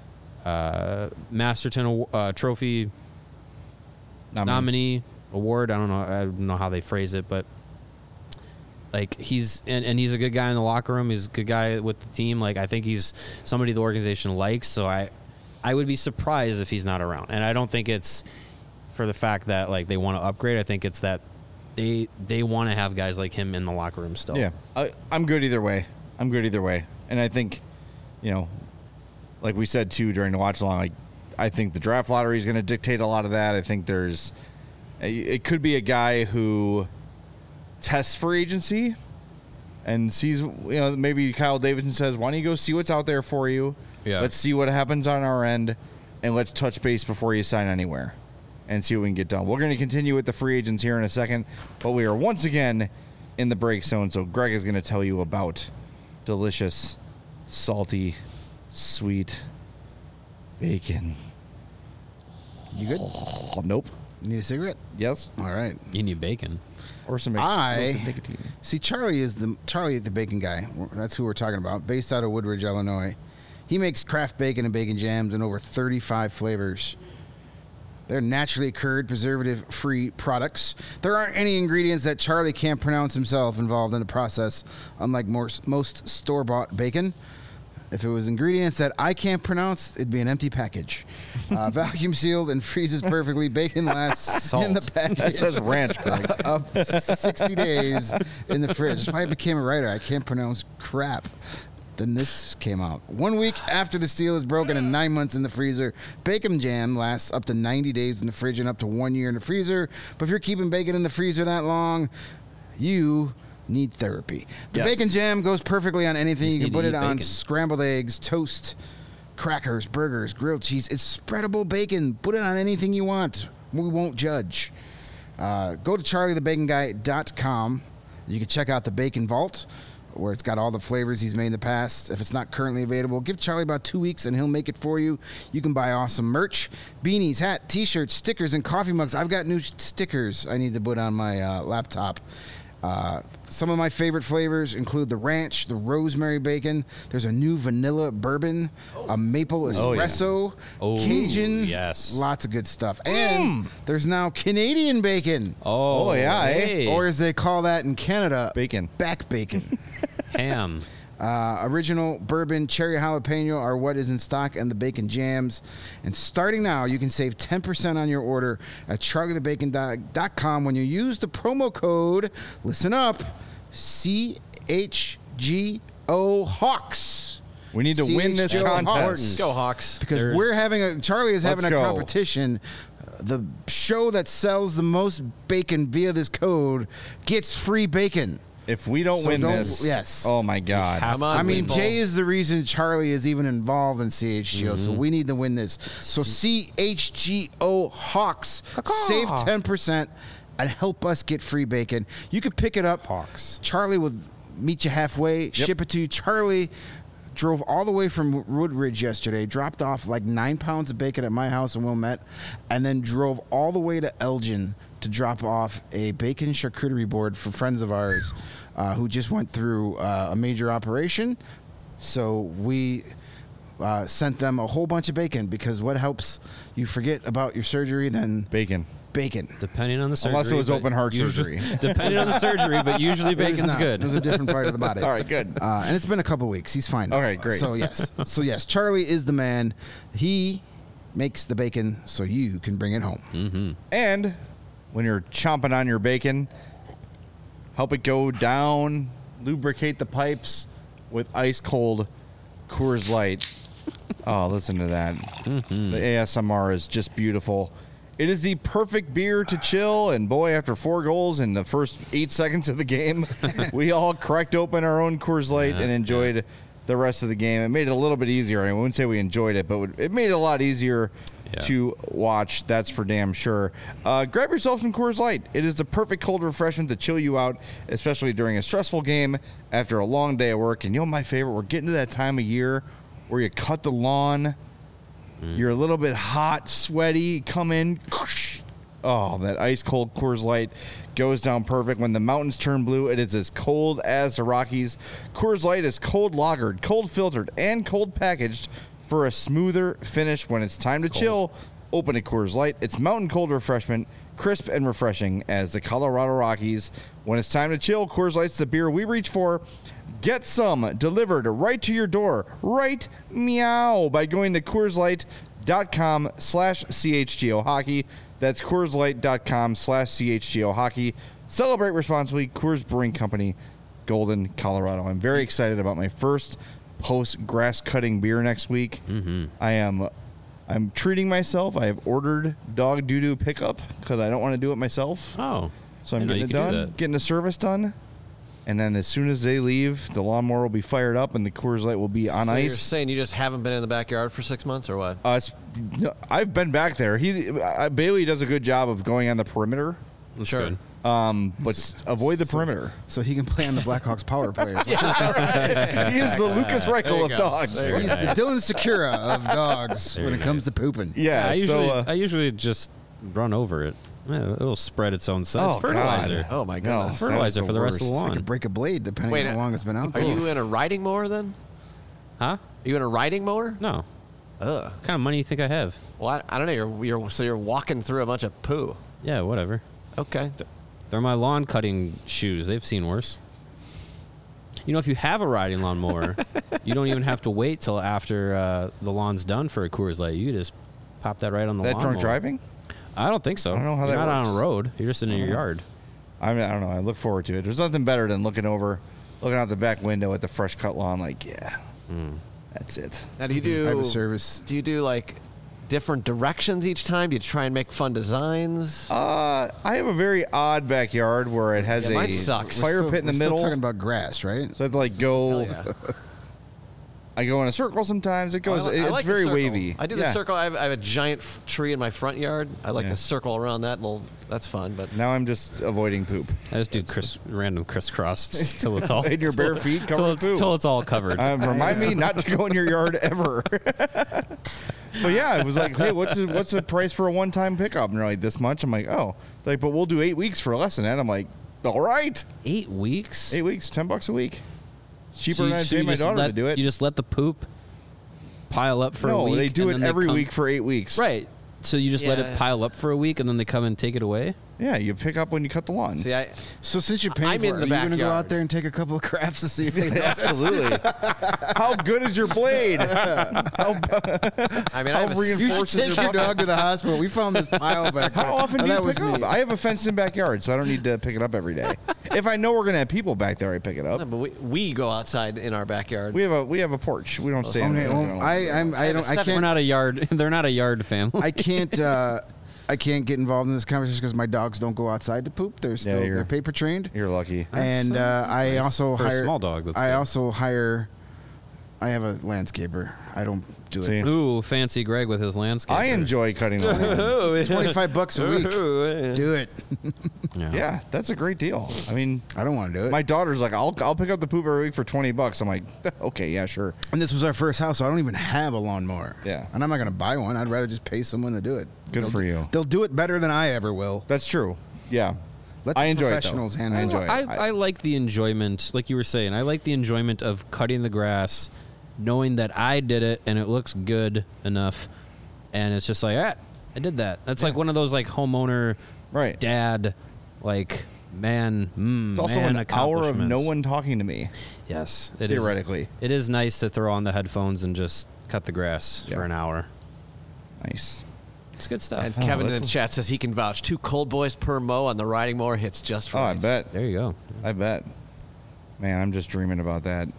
uh, Masterton uh, Trophy Nominee. nominee award. I don't know. I don't know how they phrase it, but like he's and, and he's a good guy in the locker room. He's a good guy with the team. Like I think he's somebody the organization likes. So I, I would be surprised if he's not around. And I don't think it's for the fact that like they want to upgrade. I think it's that they they want to have guys like him in the locker room still. Yeah, I, I'm good either way. I'm good either way. And I think, you know, like we said too during the watch along, like I think the draft lottery is going to dictate a lot of that. I think there's, it could be a guy who tests free agency and sees, you know, maybe Kyle Davidson says, why don't you go see what's out there for you? Yeah. Let's see what happens on our end, and let's touch base before you sign anywhere and see what we can get done. We're going to continue with the free agents here in a second, but we are once again in the break zone. So Greg is going to tell you about delicious, salty, sweet bacon. You good? Oh, nope. Need a cigarette? Yes. All right. You need bacon. Or some I- explosive nicotine. See, Charlie is the Charlie the bacon guy. That's who we're talking about. Based out of Woodridge, Illinois. He makes craft bacon and bacon jams in over thirty-five flavors. They're naturally occurred, preservative-free products. There aren't any ingredients that Charlie can't pronounce himself involved in the process, unlike most, most store-bought bacon. If it was ingredients that I can't pronounce, it'd be an empty package. Uh, vacuum sealed and freezes perfectly. Bacon lasts in the package. That says ranch, Greg. Of sixty days in the fridge. That's why I became a writer. I can't pronounce crap. Then this came out. One week after the seal is broken and nine months in the freezer, bacon jam lasts up to ninety days in the fridge and up to one year in the freezer. But if you're keeping bacon in the freezer that long, you need therapy. The Yes. bacon jam goes perfectly on anything. Just You can need put to it eat on bacon. scrambled eggs, toast, crackers, burgers, grilled cheese. It's spreadable bacon. Put it on anything you want. We won't judge. Uh, go to charlie the bacon guy dot com. You can check out the Bacon Vault, where it's got all the flavors he's made in the past. If it's not currently available, give Charlie about two weeks and he'll make it for you. You can buy awesome merch, beanies, hat, t-shirts, stickers, and coffee mugs. I've got new stickers I need to put on my uh, laptop. Uh, some of my favorite flavors include the ranch, the rosemary bacon. There's a new vanilla bourbon, a maple Oh, yeah. espresso, Oh, Cajun. yes. Lots of good stuff. And there's now Canadian bacon. Oh, Oh, yeah, eh? hey. Or as they call that in Canada, Bacon. back bacon. ham. Uh, original bourbon, cherry jalapeno are what is in stock, and the bacon jams. And starting now, you can save ten percent on your order at charlie the bacon dot com when you use the promo code, listen up, C H G O Hawks. We need to win this C H G O contest. Hawks. Go Hawks. Because There's- we're having a, Charlie is having Let's a go. competition. Uh, the show that sells the most bacon via this code gets free bacon. If we don't So win don't- this, yes. oh my God. have Come on, I mean, people. Jay is the reason Charlie is even involved in C H G O, Mm-hmm. so we need to win this. So C H G O Hawks, save ten percent and help us get free bacon. You can pick it up. Hawks. Charlie will meet you halfway, ship it to you. Charlie drove all the way from Woodridge yesterday, dropped off like nine pounds of bacon at my house in Wilmette, and then drove all the way to Elgin to drop off a bacon charcuterie board for friends of ours uh, who just went through uh, a major operation. So we uh, sent them a whole bunch of bacon because what helps you forget about your surgery than Bacon. bacon? Depending on the surgery. Unless it was but open heart usually- surgery. Depending on the surgery, but usually It was bacon's not. good. It was a different part of the body. All right, good. Uh, and it's been a couple weeks. He's fine. now. Okay, great. So yes, so yes, Charlie is the man. He makes the bacon so you can bring it home. And when you're chomping on your bacon, help it go down, lubricate the pipes with ice cold Coors Light. Oh, listen to that. The A S M R is just beautiful. It is the perfect beer to chill, and boy, after four goals in the first eight seconds of the game, we all cracked open our own Coors Light and enjoyed the rest of the game. It made it a little bit easier. I wouldn't say we enjoyed it, but it made it a lot easier Yeah. to watch. That's for damn sure. Uh, grab yourself some Coors Light. It is the perfect cold refreshment to chill you out, especially during a stressful game after a long day of work. And you know my favorite? We're getting to that time of year where you cut the lawn. You're a little bit hot, sweaty. Come in. Oh, that ice cold Coors Light goes down perfect. When the mountains turn blue, it is as cold as the Rockies. Coors Light is cold lagered, cold filtered, and cold packaged For a smoother finish when it's time to chill, open a Coors Light. It's mountain cold refreshment, crisp and refreshing as the Colorado Rockies. When it's time to chill, Coors Light's the beer we reach for. Get some delivered right to your door, right meow, by going to CoorsLight.com slash CHGO Hockey. That's CoorsLight.com slash CHGO Hockey. Celebrate responsibly. Coors Brewing Company, Golden, Colorado. I'm very excited about my first post-grass cutting beer next week. Mm-hmm. I am I'm treating myself. I have ordered dog doo-doo pickup because I don't want to do it myself. Oh. So I'm I getting it know you could do done, that. getting the service done. And then as soon as they leave, the lawnmower will be fired up and the Coors Light will be on So you're ice. saying you just haven't been in the backyard for six months or what? Uh, it's, no, I've been back there. He uh, Bailey does a good job of going on the perimeter, That's Sure. good. um, but s- avoid the perimeter. So he can play on the Blackhawks power plays. Which He is the Lucas Reichel of go. dogs. is, he's the Dylan Secura of dogs There when it he comes is. to pooping. Yeah, I usually so uh, I usually just run over it. Yeah, it'll spread its own size. Oh, It's fertilizer. God. Oh, my no, goodness. Fertilizer that is for the rest of the worst. lawn. I could break a blade depending Wait, on how long it's been out Are there. you in a riding mower then? Huh? Are you in a riding mower? No. Ugh. What kind of money do you think I have? Well, I, I don't know. You're, you're so you're walking through a bunch of poo. Yeah, whatever. Okay. They're my lawn cutting shoes. They've seen worse. You know, if you have a riding lawnmower, you don't even have to wait till after uh, the lawn's done for a Coors Light. You just pop that right on the That lawnmower. drunk driving? I don't think so. I don't know how You're that not on works. a road. You're just in your yard. I mean, I don't know. I look forward to it. There's nothing better than looking over, looking out the back window at the fresh cut lawn. Like, yeah, that's it. Now, do you do? I have a service. Do you do like different directions each time? Do you try and make fun designs? Uh, I have a very odd backyard where it has Yeah, a mine sucks. fire Still- pit in the we're middle. Still talking about grass, right? So I have to like go. Hell yeah. I go in a circle sometimes. It goes. I li- I it's like the very circle. wavy. I do the Yeah. circle. I have, I have a giant f- tree in my front yard. I like Yeah. the circle around that. Little, that's fun. But Now I'm just avoiding poop. I just do criss, random crisscross till it's all In your bare feet covered till in it's, poop. till it's all covered. Um, remind me not to go in your yard ever. But yeah, it was like, hey, what's the, what's the price for a one-time pickup? And they're like, this much. I'm like, oh, like, but we'll do eight weeks for less than that. I'm like, all right, Eight weeks. eight weeks, ten bucks a week. It's cheaper So you- than I so pay you my just daughter let, to do it. You just let the poop pile up for a no, week. they do and it then they every come- week for eight weeks. Right. So you just let Yeah. it pile up for a week and then they come and take it away? Yeah, you pick up when you cut the lawn. see, I So since you're paying I'm for in it, the are you going to go backyard. out there and take a couple of crafts to see if they know? Absolutely. How good is your blade? How, I mean, I how have a, You should reinforced is take your your bucket? dog to the hospital. We found this pile back there. How often Oh, do you that was pick up? me. I have a fenced-in backyard, so I don't need to pick it up every day. If I know we're gonna have people back there, I pick it up. No, but we, we go outside in our backyard. We have a we have a porch. We don't stay. in Okay, it. well, I, I'm, I have a don't, I seven- We're can't, not a yard. They're not a yard family. I can't, uh, I can't get involved in this conversation because my dogs don't go outside to poop. They're still, you're- they're paper trained. You're lucky. And That's, uh, uh, that's I nice. also For a hire small dog, that's I good. also hire. I have a landscaper. I don't do See? it. Ooh, fancy Greg with his landscape. I enjoy cutting the lawn. Twenty-five bucks a week. Do it. Yeah. Yeah, that's a great deal. I mean, I don't want to do it. my daughter's like, I'll I'll pick up the poop every week for twenty bucks. I'm like, okay, yeah, sure. and this was our first house, so I don't even have a lawnmower. Yeah. And I'm not going to buy one. I'd rather just pay someone to do it. Good They'll for do- you. They'll do it better than I ever will. That's true. Yeah, Let the I enjoy professionals it though. handle I it. enjoy it. I, I like the enjoyment, like you were saying. I like the enjoyment of cutting the grass, knowing that I did it and it looks good enough, and it's just like, ah, I did that. That's like one of those like homeowner, Right. dad, like man, mm, It's also man an hour of no accomplishments. one talking to me. Yes, it is. Theoretically. It is nice to throw on the headphones and just cut the grass Yeah. for an hour. Nice. It's good stuff. And Kevin in that's the a- chat says he can vouch. Two cold boys per mow on the riding mower hits just Oh, I right. bet. there you go. I bet. Man, I'm just dreaming about that.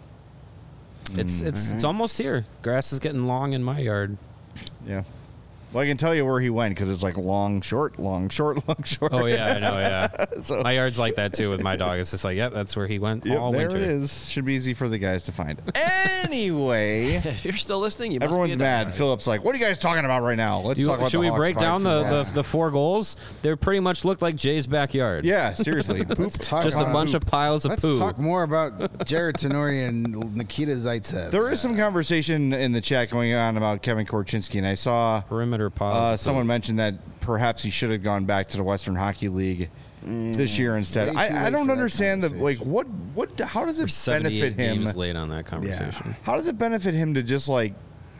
It's it's it's almost here. Grass is getting long in my yard. Yeah. Well, I can tell you where he went because it's like long, short, long, short, long, short. Oh yeah, I know. Yeah, So- my yard's like that too with my dog. It's just like, yep, that's where he went Yep, all there winter. it is. Should be easy for the guys to find. Anyway, If you're still listening, you must everyone's be a mad. diehard. Philip's like, "What are you guys talking about right now? Let's You- talk about should the we Hawks break fight." down the, Yeah. the, the four goals? They pretty much look like Jay's backyard. Yeah, seriously. Poop. Talk Just a about- bunch of piles of Let's poo. talk more about Jared Tenori and Nikita Zaitsev. There is some conversation in the chat going on about Kevin Korchinski, and I saw Perimeter piles. uh, of poo. someone mentioned that perhaps he should have gone back to the Western Hockey League this year instead. way too I, I late don't for that understand the like conversation. what what how does We're it seventy-eight benefit him? games late on that conversation. How does it benefit him to just like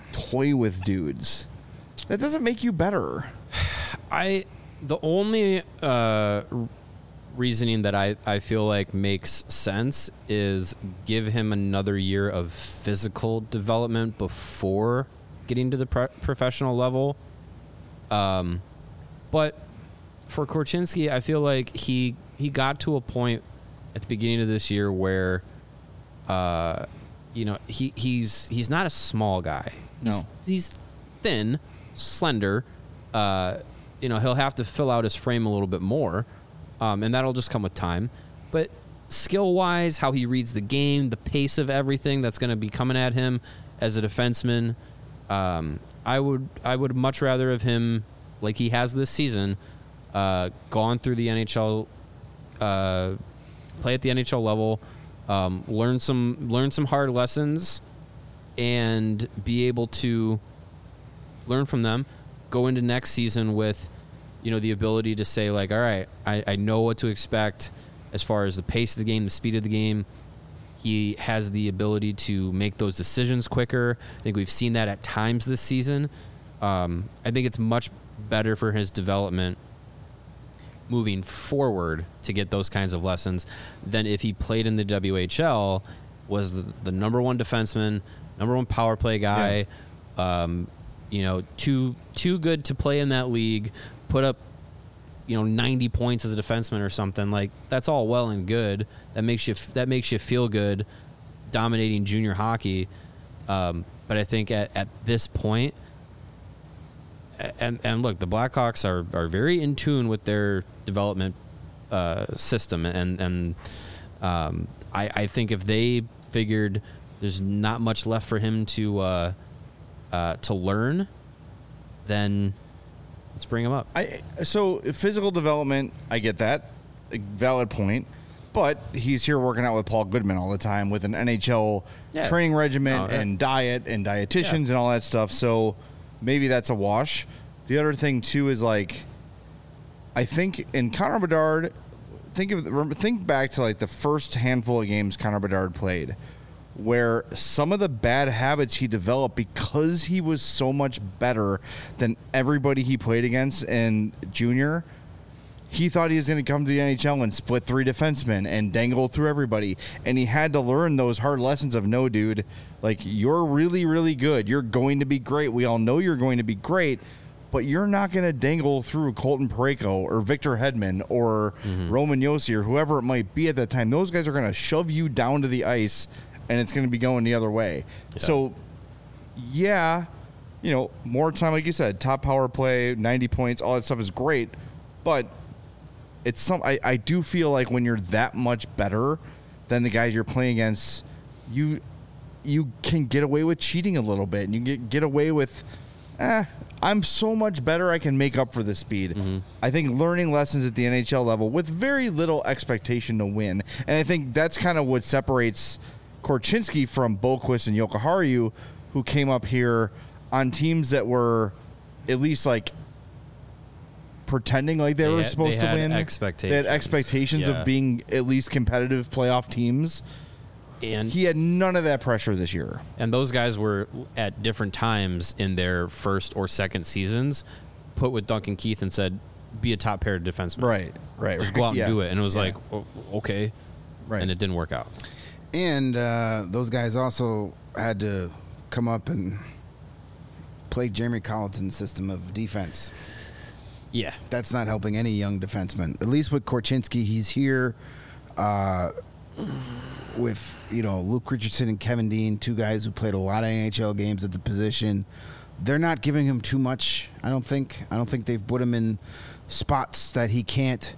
toy with dudes. That doesn't make you better. I the only uh, reasoning that I, I feel like makes sense is give him another year of physical development before getting to the pro- professional level. Um, but for Korchinski, I feel like he he got to a point at the beginning of this year where, uh, you know, he he's he's not a small guy. No, he's, he's thin, slender. Uh, you know, he'll have to fill out his frame a little bit more, um, and that'll just come with time. But skill-wise, how he reads the game, the pace of everything that's going to be coming at him as a defenseman, um, I would I would much rather have him, like he has this season, uh, gone through the N H L, uh, play at the N H L level, um, learn some learn some hard lessons, and be able to learn from them. Go into next season with, you know, the ability to say, like, all right, I, I know what to expect as far as the pace of the game, the speed of the game. He has the ability to make those decisions quicker. I think we've seen that at times this season. Um, I think it's much better for his development moving forward to get those kinds of lessons than if he played in the W H L, was the, the number one defenseman, number one power play guy, yeah. um, you know, too too good to play in that league, put up, you know, ninety points as a defenseman or something. Like, that's all well and good. That makes you that makes you feel good, dominating junior hockey. Um, but I think at, at this point, and and look, the Blackhawks are, are very in tune with their development uh, system, and and um, I I think if they figured there's not much left for him to. Uh, Uh, to learn, then let's bring him up. I so physical development, I get that, a valid point, but he's here working out with Paul Goodman all the time with an N H L yeah. training regimen oh, yeah. and diet and dietitians yeah. and all that stuff. So maybe that's a wash. The other thing too is, like, I think in Connor Bedard, think of think back to like the first handful of games Connor Bedard played, where some of the bad habits he developed because he was so much better than everybody he played against in junior. He thought he was going to come to the N H L and split three defensemen and dangle through everybody. And he had to learn those hard lessons of, no, dude, like, you're really, really good. You're going to be great. We all know you're going to be great, but you're not going to dangle through Colton Parayko or Victor Hedman or mm-hmm. Roman Josi or whoever it might be at that time. Those guys are going to shove you down to the ice, and it's going to be going the other way. Yeah. So, yeah, you know, more time, like you said, top power play, ninety points, all that stuff is great. But it's some. I, I do feel like when you're that much better than the guys you're playing against, you you can get away with cheating a little bit, and you get get away with, eh, I'm so much better, I can make up for the speed. Mm-hmm. I think learning lessons at the N H L level with very little expectation to win, and I think that's kind of what separates Korchinski from Boqvist and Jokiharju, who came up here on teams that were at least like pretending like they, they were had, supposed they to win. Expectations. They had expectations yeah. of being at least competitive playoff teams. And he had none of that pressure this year. And those guys were at different times in their first or second seasons put with Duncan Keith and said, be a top pair defenseman. Right, right. Just go out yeah. and do it. And it was yeah. like, oh, okay. Right. And it didn't work out. And uh, those guys also had to come up and play Jeremy Colliton's system of defense. Yeah. That's not helping any young defenseman. At least with Korchinski, he's here uh, with, you know, Luke Richardson and Kevin Dean, two guys who played a lot of N H L games at the position. They're not giving him too much, I don't think. I don't think they've put him in spots that he can't.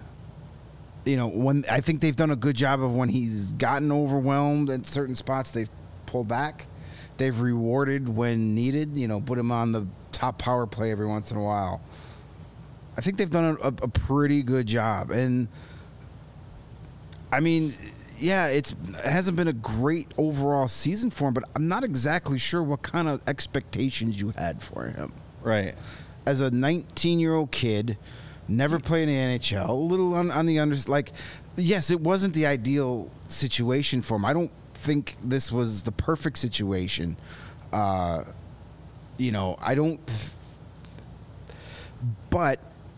You know, when I think they've done a good job of when he's gotten overwhelmed at certain spots, they've pulled back. They've rewarded when needed, you know, put him on the top power play every once in a while. I think they've done a, a pretty good job. And, I mean, yeah, it's, it hasn't been a great overall season for him, but I'm not exactly sure what kind of expectations you had for him. Right. As a nineteen-year-old kid, never played in the N H L, a little on, on the under, like, yes, it wasn't the ideal situation for him. I don't think this was the perfect situation. Uh, you know, I don't. But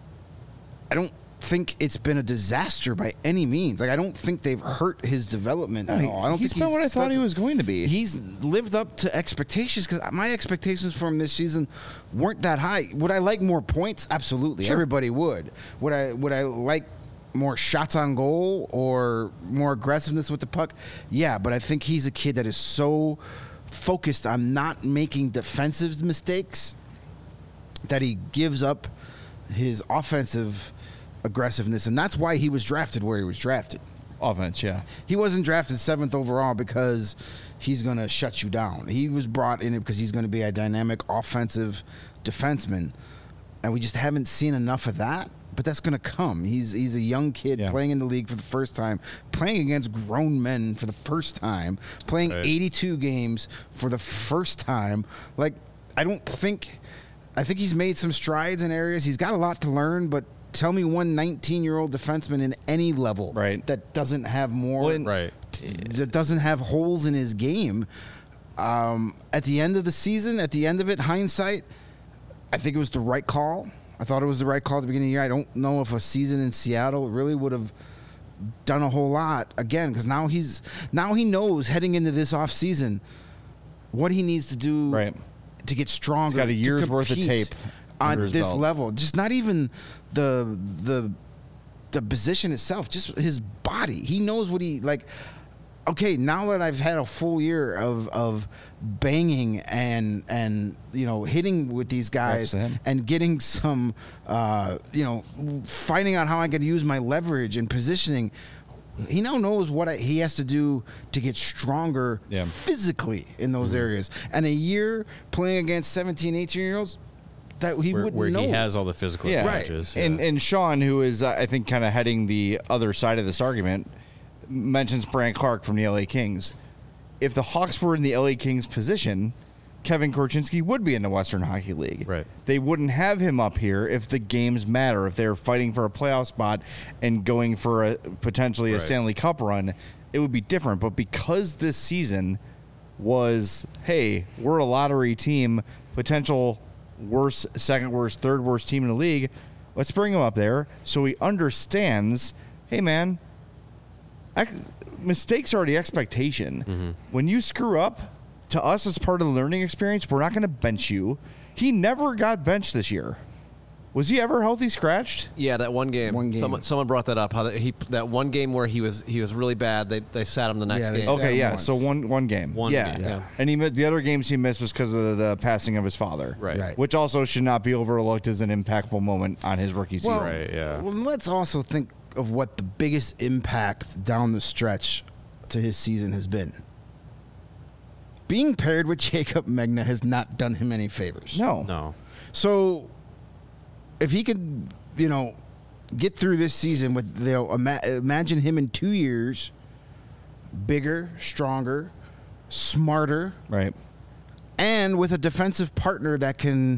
I don't think it's been a disaster by any means. Like I don't think they've hurt his development at all. I don't he's think been what I thought he that's- was going to be. He's lived up to expectations because my expectations for him this season weren't that high. Would I like more points? Absolutely, everybody would. Would I? Would I like more shots on goal or more aggressiveness with the puck? Yeah, but I think he's a kid that is so focused on not making defensive mistakes that he gives up his offensive aggressiveness, and that's why he was drafted where he was drafted. Offense, yeah. He wasn't drafted seventh overall because he's going to shut you down. He was brought in because he's going to be a dynamic offensive defenseman, and we just haven't seen enough of that. But that's going to come. He's he's a young kid Yeah. playing in the league for the first time, playing against grown men for the first time, playing Right. eighty-two games for the first time. Like, I don't think... I think he's made some strides in areas. He's got a lot to learn, but tell me one nineteen-year-old defenseman in any level Right. that doesn't have more, Well, and- Right. that doesn't have holes in his game. Um, at the end of the season, at the end of it, hindsight, I think it was the right call. I thought it was the right call at the beginning of the year. I don't know if a season in Seattle really would have done a whole lot again, because now he's now he knows heading into this off season what he needs to do Right. to get stronger. He's got a to year's worth of compete tape under on his this belt. level. Just not even the the the position itself, just his body. He knows what he like. Okay, now that I've had a full year of of banging and and you know hitting with these guys Reps to him. and getting some uh, you know finding out how I can use my leverage and positioning. He now knows what I, he has to do to get stronger Yeah. physically in those areas. And a year playing against seventeen, eighteen-year-olds, that he Where, wouldn't where know. he has all the physical Yeah, advantages. And yeah. and Sean, who is uh, I think kind of heading the other side of this argument, mentions Brian Clark from the L A Kings. If the Hawks were in the L A Kings position, Kevin Korchinski would be in the Western Hockey League. Right. They wouldn't have him up here if the games matter. If they're fighting for a playoff spot and going for a potentially a Right. Stanley Cup run, it would be different. But because this season was, hey, we're a lottery team, potential worst, second worst, third worst team in the league, let's bring him up there so he understands, hey, man, I, mistakes are the expectation. Mm-hmm. When you screw up, to us as part of the learning experience, we're not going to bench you. He never got benched this year. Was he ever healthy scratched? Yeah, that one game. One game. Someone, someone brought that up. How that, he that one game where he was he was really bad. They they sat him the next Yeah, they game. sat Okay, him yeah. once. So one one game. One yeah. game, yeah. And he mi- the other games he missed was because of the, the passing of his father. Right. Right. Which also should not be overlooked as an impactful moment on his rookie season. Well, Right, yeah. Well, let's also think of what the biggest impact down the stretch to his season has been. Being paired with Jacob Megna has not done him any favors. No. No. So, if he could, you know, get through this season with, you know, ima- imagine him in two years, bigger, stronger, smarter, Right. and with a defensive partner that can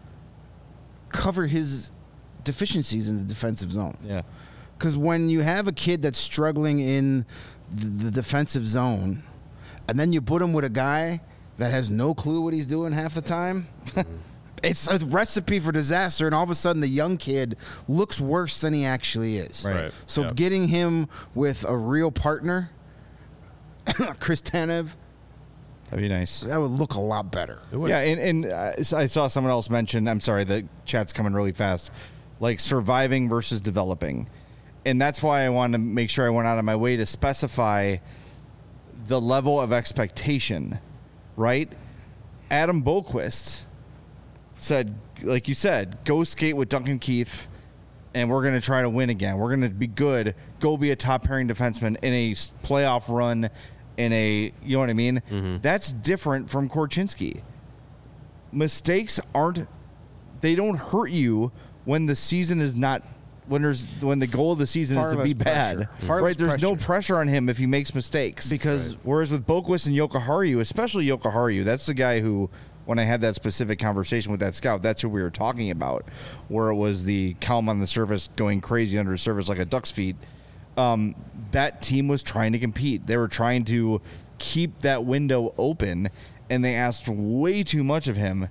cover his deficiencies in the defensive zone. Yeah. Because when you have a kid that's struggling in the, the defensive zone, and then you put him with a guy that has no clue what he's doing half the time, it's a recipe for disaster. And all of a sudden, the young kid looks worse than he actually is. Right. Right. So Yep. getting him with a real partner, Chris Tanev, That'd be nice. that would look a lot better. It would. Yeah, and, and uh, I saw someone else mention, I'm sorry, the chat's coming really fast, like surviving versus developing. And that's why I wanted to make sure I went out of my way to specify the level of expectation, right? Adam Boquist said, like you said, go skate with Duncan Keith, and we're going to try to win again. We're going to be good. Go be a top pairing defenseman in a s- playoff run, in a, you know what I mean? Mm-hmm. That's different from Korchinski. Mistakes aren't, they don't hurt you when the season is not, when there's when the goal of the season Far is to less be bad. pressure. Far less Right? There's no pressure. pressure on him if he makes mistakes. Because- whereas with Boquist and Yokoharu, especially Yokoharu, that's the guy who, when I had that specific conversation with that scout, that's who we were talking about, where it was the calm on the surface going crazy under the surface like a duck's feet. Um, that team was trying to compete. They were trying to keep that window open, and they asked way too much of him.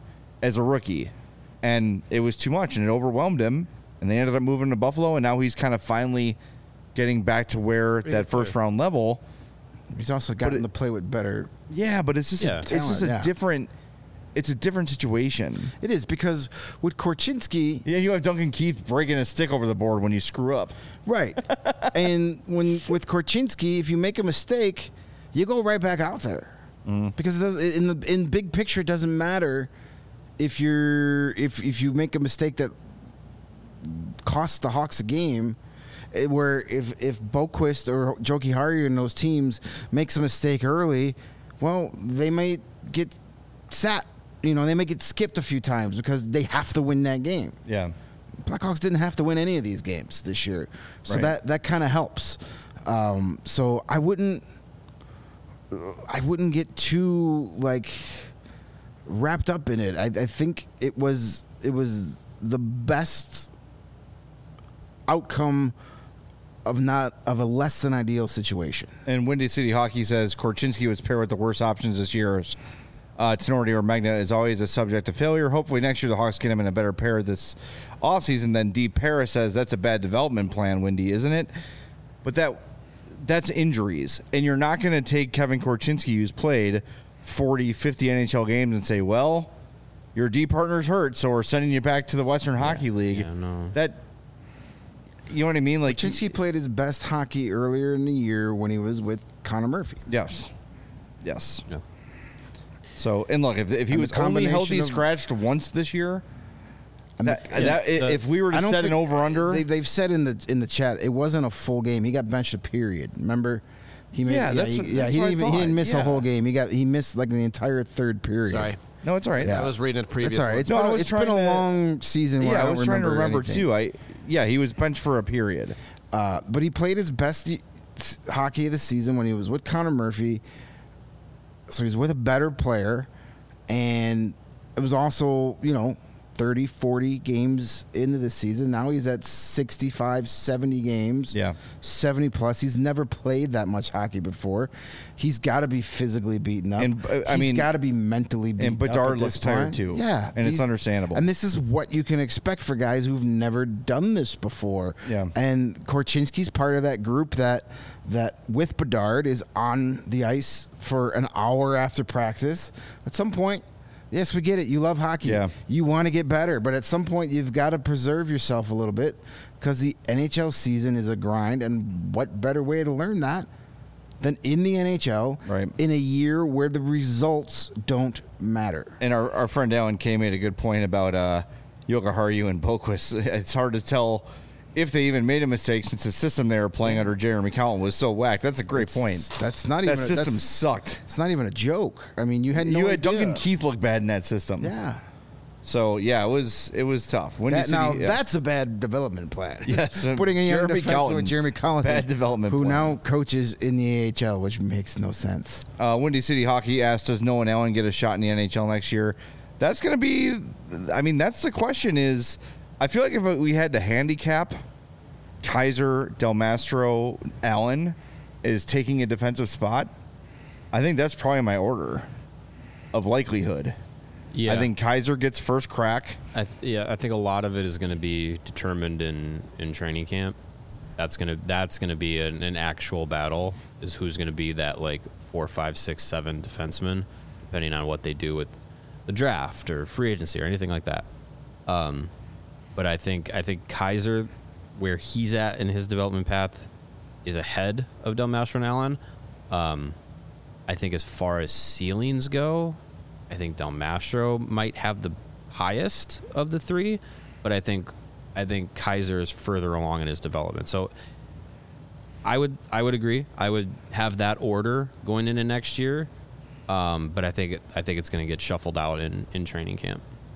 as a rookie, and it was too much, and it overwhelmed him, and they ended up moving to Buffalo, and now he's kind of finally getting back to where that first round level. He's also gotten it- to play with better. Yeah, but it's just Yeah. a, it's just a Talent, yeah. different it's a different situation. It is because with Korchinski, Yeah, you have Duncan Keith breaking his stick over the board when you screw up. right, and when with Korchinski, if you make a mistake, you go right back out there because it does, in the in big picture, it doesn't matter if you're if if you make a mistake that costs the Hawks a game. eh, Where if if Boquist or Joki Harry and those teams makes a mistake early, well, they might get sat. You know, they may get skipped a few times because they have to win that game. Yeah. Blackhawks didn't have to win any of these games this year, so Right. that that kind of helps. Um, so I wouldn't, I wouldn't get too like wrapped up in it. I, I think it was it was the best outcome of not of a less than ideal situation. And Windy City Hockey says Korchinski was paired with the worst options this year. Uh, Tenorti or Magna is always a subject to failure. Hopefully next year the Hawks get him in a better pair this offseason. Then D. Paris says that's a bad development plan, Windy, isn't it? But that that's injuries. And you're not going to take Kevin Korchinski, who's played forty, fifty N H L games, and say, well, your D partner's hurt, so we're sending you back to the Western Hockey League. Yeah, no. That, you know what I mean? Like, Korchinski played his best hockey earlier in the year when he was with Connor Murphy. yes. Yes. Yeah. So, and look, if, if he And the was only healthy combination of- scratched once this year, that, Yeah, that, the- if we were to I don't set an think- over under, They, they've said in the in the chat it wasn't a full game. He got benched a period. Remember, he made, Yeah, that's- he, yeah. that's He what I didn't even he thought. didn't miss Yeah. a whole game. He got he missed like the entire third period. Sorry. no, it's all right. Yeah. I was reading a previous It's all right. one. It's No, I been, a- was it's been a trying to- long season. Where Yeah, I, I don't was trying to remember anything. too. I yeah, he was benched for a period. Uh, but he played his best y- s- hockey of the season when he was with Connor Murphy. So he's with a better player, and it was also, you know, thirty, forty games into the season. Now he's at sixty-five, seventy games. Yeah. seventy plus. He's never played that much hockey before. He's got to be physically beaten up. And, uh, I He's mean- got to be mentally beaten And up. Bedard at looks this tired point. too. Yeah. And it's he's- understandable. And this is what you can expect for guys who've never done this before. Yeah. And Korchinski's part of that group that that with Bedard is on the ice for an hour after practice. At some point, yes, we get it. You love hockey. Yeah. You want to get better, but at some point you've got to preserve yourself a little bit because the N H L season is a grind, and what better way to learn that than in the N H L Right. in a year where the results don't matter. And our, our friend Alan K made a good point about uh, Jokiharju and Boquist. It's hard to tell if they even made a mistake since the system they were playing under Jeremy Collin was so whacked. That's a great point. That's not That even a, system that's- sucked. It's not even a joke. I mean, you had no you had idea. Duncan Keith look bad in that system. Yeah. So yeah, it was it was tough. Windy That, City, now yeah. that's a bad development plan. Yes, uh, putting a young Jeremy defenseman Collin. with Jeremy Collins, Bad development who plan. now coaches in the A H L, which makes no sense. Uh, Windy City Hockey asked, does Nolan Allen get a shot in the N H L next year? That's going to be, I mean, that's the question is, I feel like if we had to handicap, Kaiser, Del Mastro, Allen is taking a defensive spot, I think that's probably my order of likelihood. Yeah. I think Kaiser gets first crack. I th- yeah, I think a lot of it is going to be determined in, in training camp. That's gonna that's gonna be an, an actual battle. Is who's going to be that like four, five, six, seven defenseman, depending on what they do with the draft or free agency or anything like that. Um, but I think I think Kaiser, where he's at in his development path, is ahead of Del Mastro and Allen. Um, I think as far as ceilings go, I think Del Mastro might have the highest of the three, but I think I think Kaiser is further along in his development. So I would I would agree. I would have that order going into next year, um, but I think it, I think it's going to get shuffled out in, in training camp.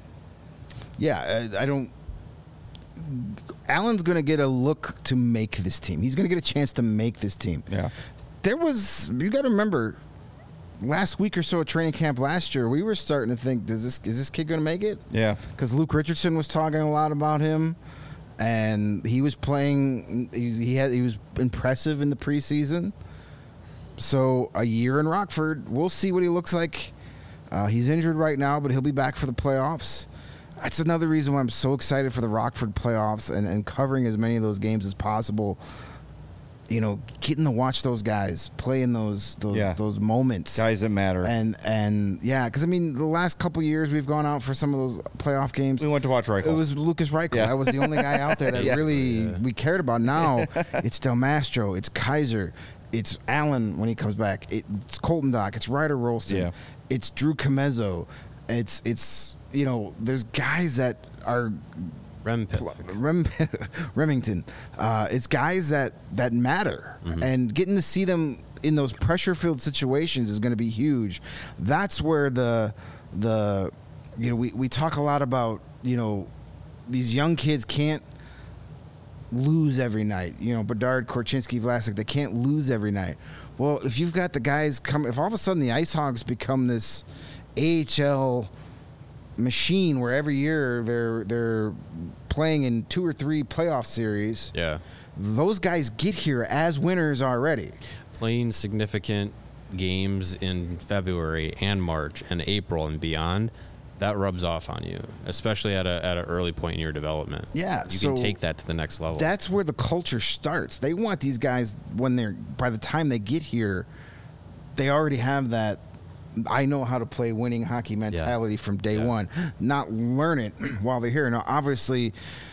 Yeah, I, I don't. Allen's going to get a look to make this team. He's going to get a chance to make this team. Yeah. There was, you got to remember, last week or so at training camp last year, we were starting to think, does this is this kid going to make it? Yeah. Because Luke Richardson was talking a lot about him, and he was playing. He, he had he was impressive in the preseason. So a year in Rockford, we'll see what he looks like Uh, he's injured right now, but he'll be back for the playoffs. That's another reason why I'm so excited for the Rockford playoffs and, and covering as many of those games as possible. You know, getting to watch those guys play in those those Yeah. those moments, Guys that matter. and and yeah, because I mean, the last couple years we've gone out for some of those playoff games. we went to watch Reichel. It was Lucas Reichel. Yeah. That was the only guy out there that Yeah. really we cared about. Now it's Del Mastro, it's Kaiser, it's Allen when he comes back, it's Colton Dock, it's Ryder Rolston, Yeah. it's Drew Comezzo, it's it's you know, there's guys that are Rem Pip. Rem, Remington. Uh, it's guys that that matter, and getting to see them in those pressure-filled situations is going to be huge. That's where the the you know we, we talk a lot about you know these young kids can't lose every night. You know, Bedard, Korchinski, Vlasic, they can't lose every night. Well, if you've got the guys come, if all of a sudden the Ice Hogs become this A H L machine where every year they're they're playing in two or three playoff series, Yeah. those guys get here as winners already. Playing significant games in February and March and April and beyond, that rubs off on you, especially at a at an early point in your development. Yeah, You so can take that to the next level. That's where the culture starts. They want these guys when they're by the time they get here, they already have that I know how to play winning hockey mentality from day Yeah. one, not learn it while they're here. Now, obviously,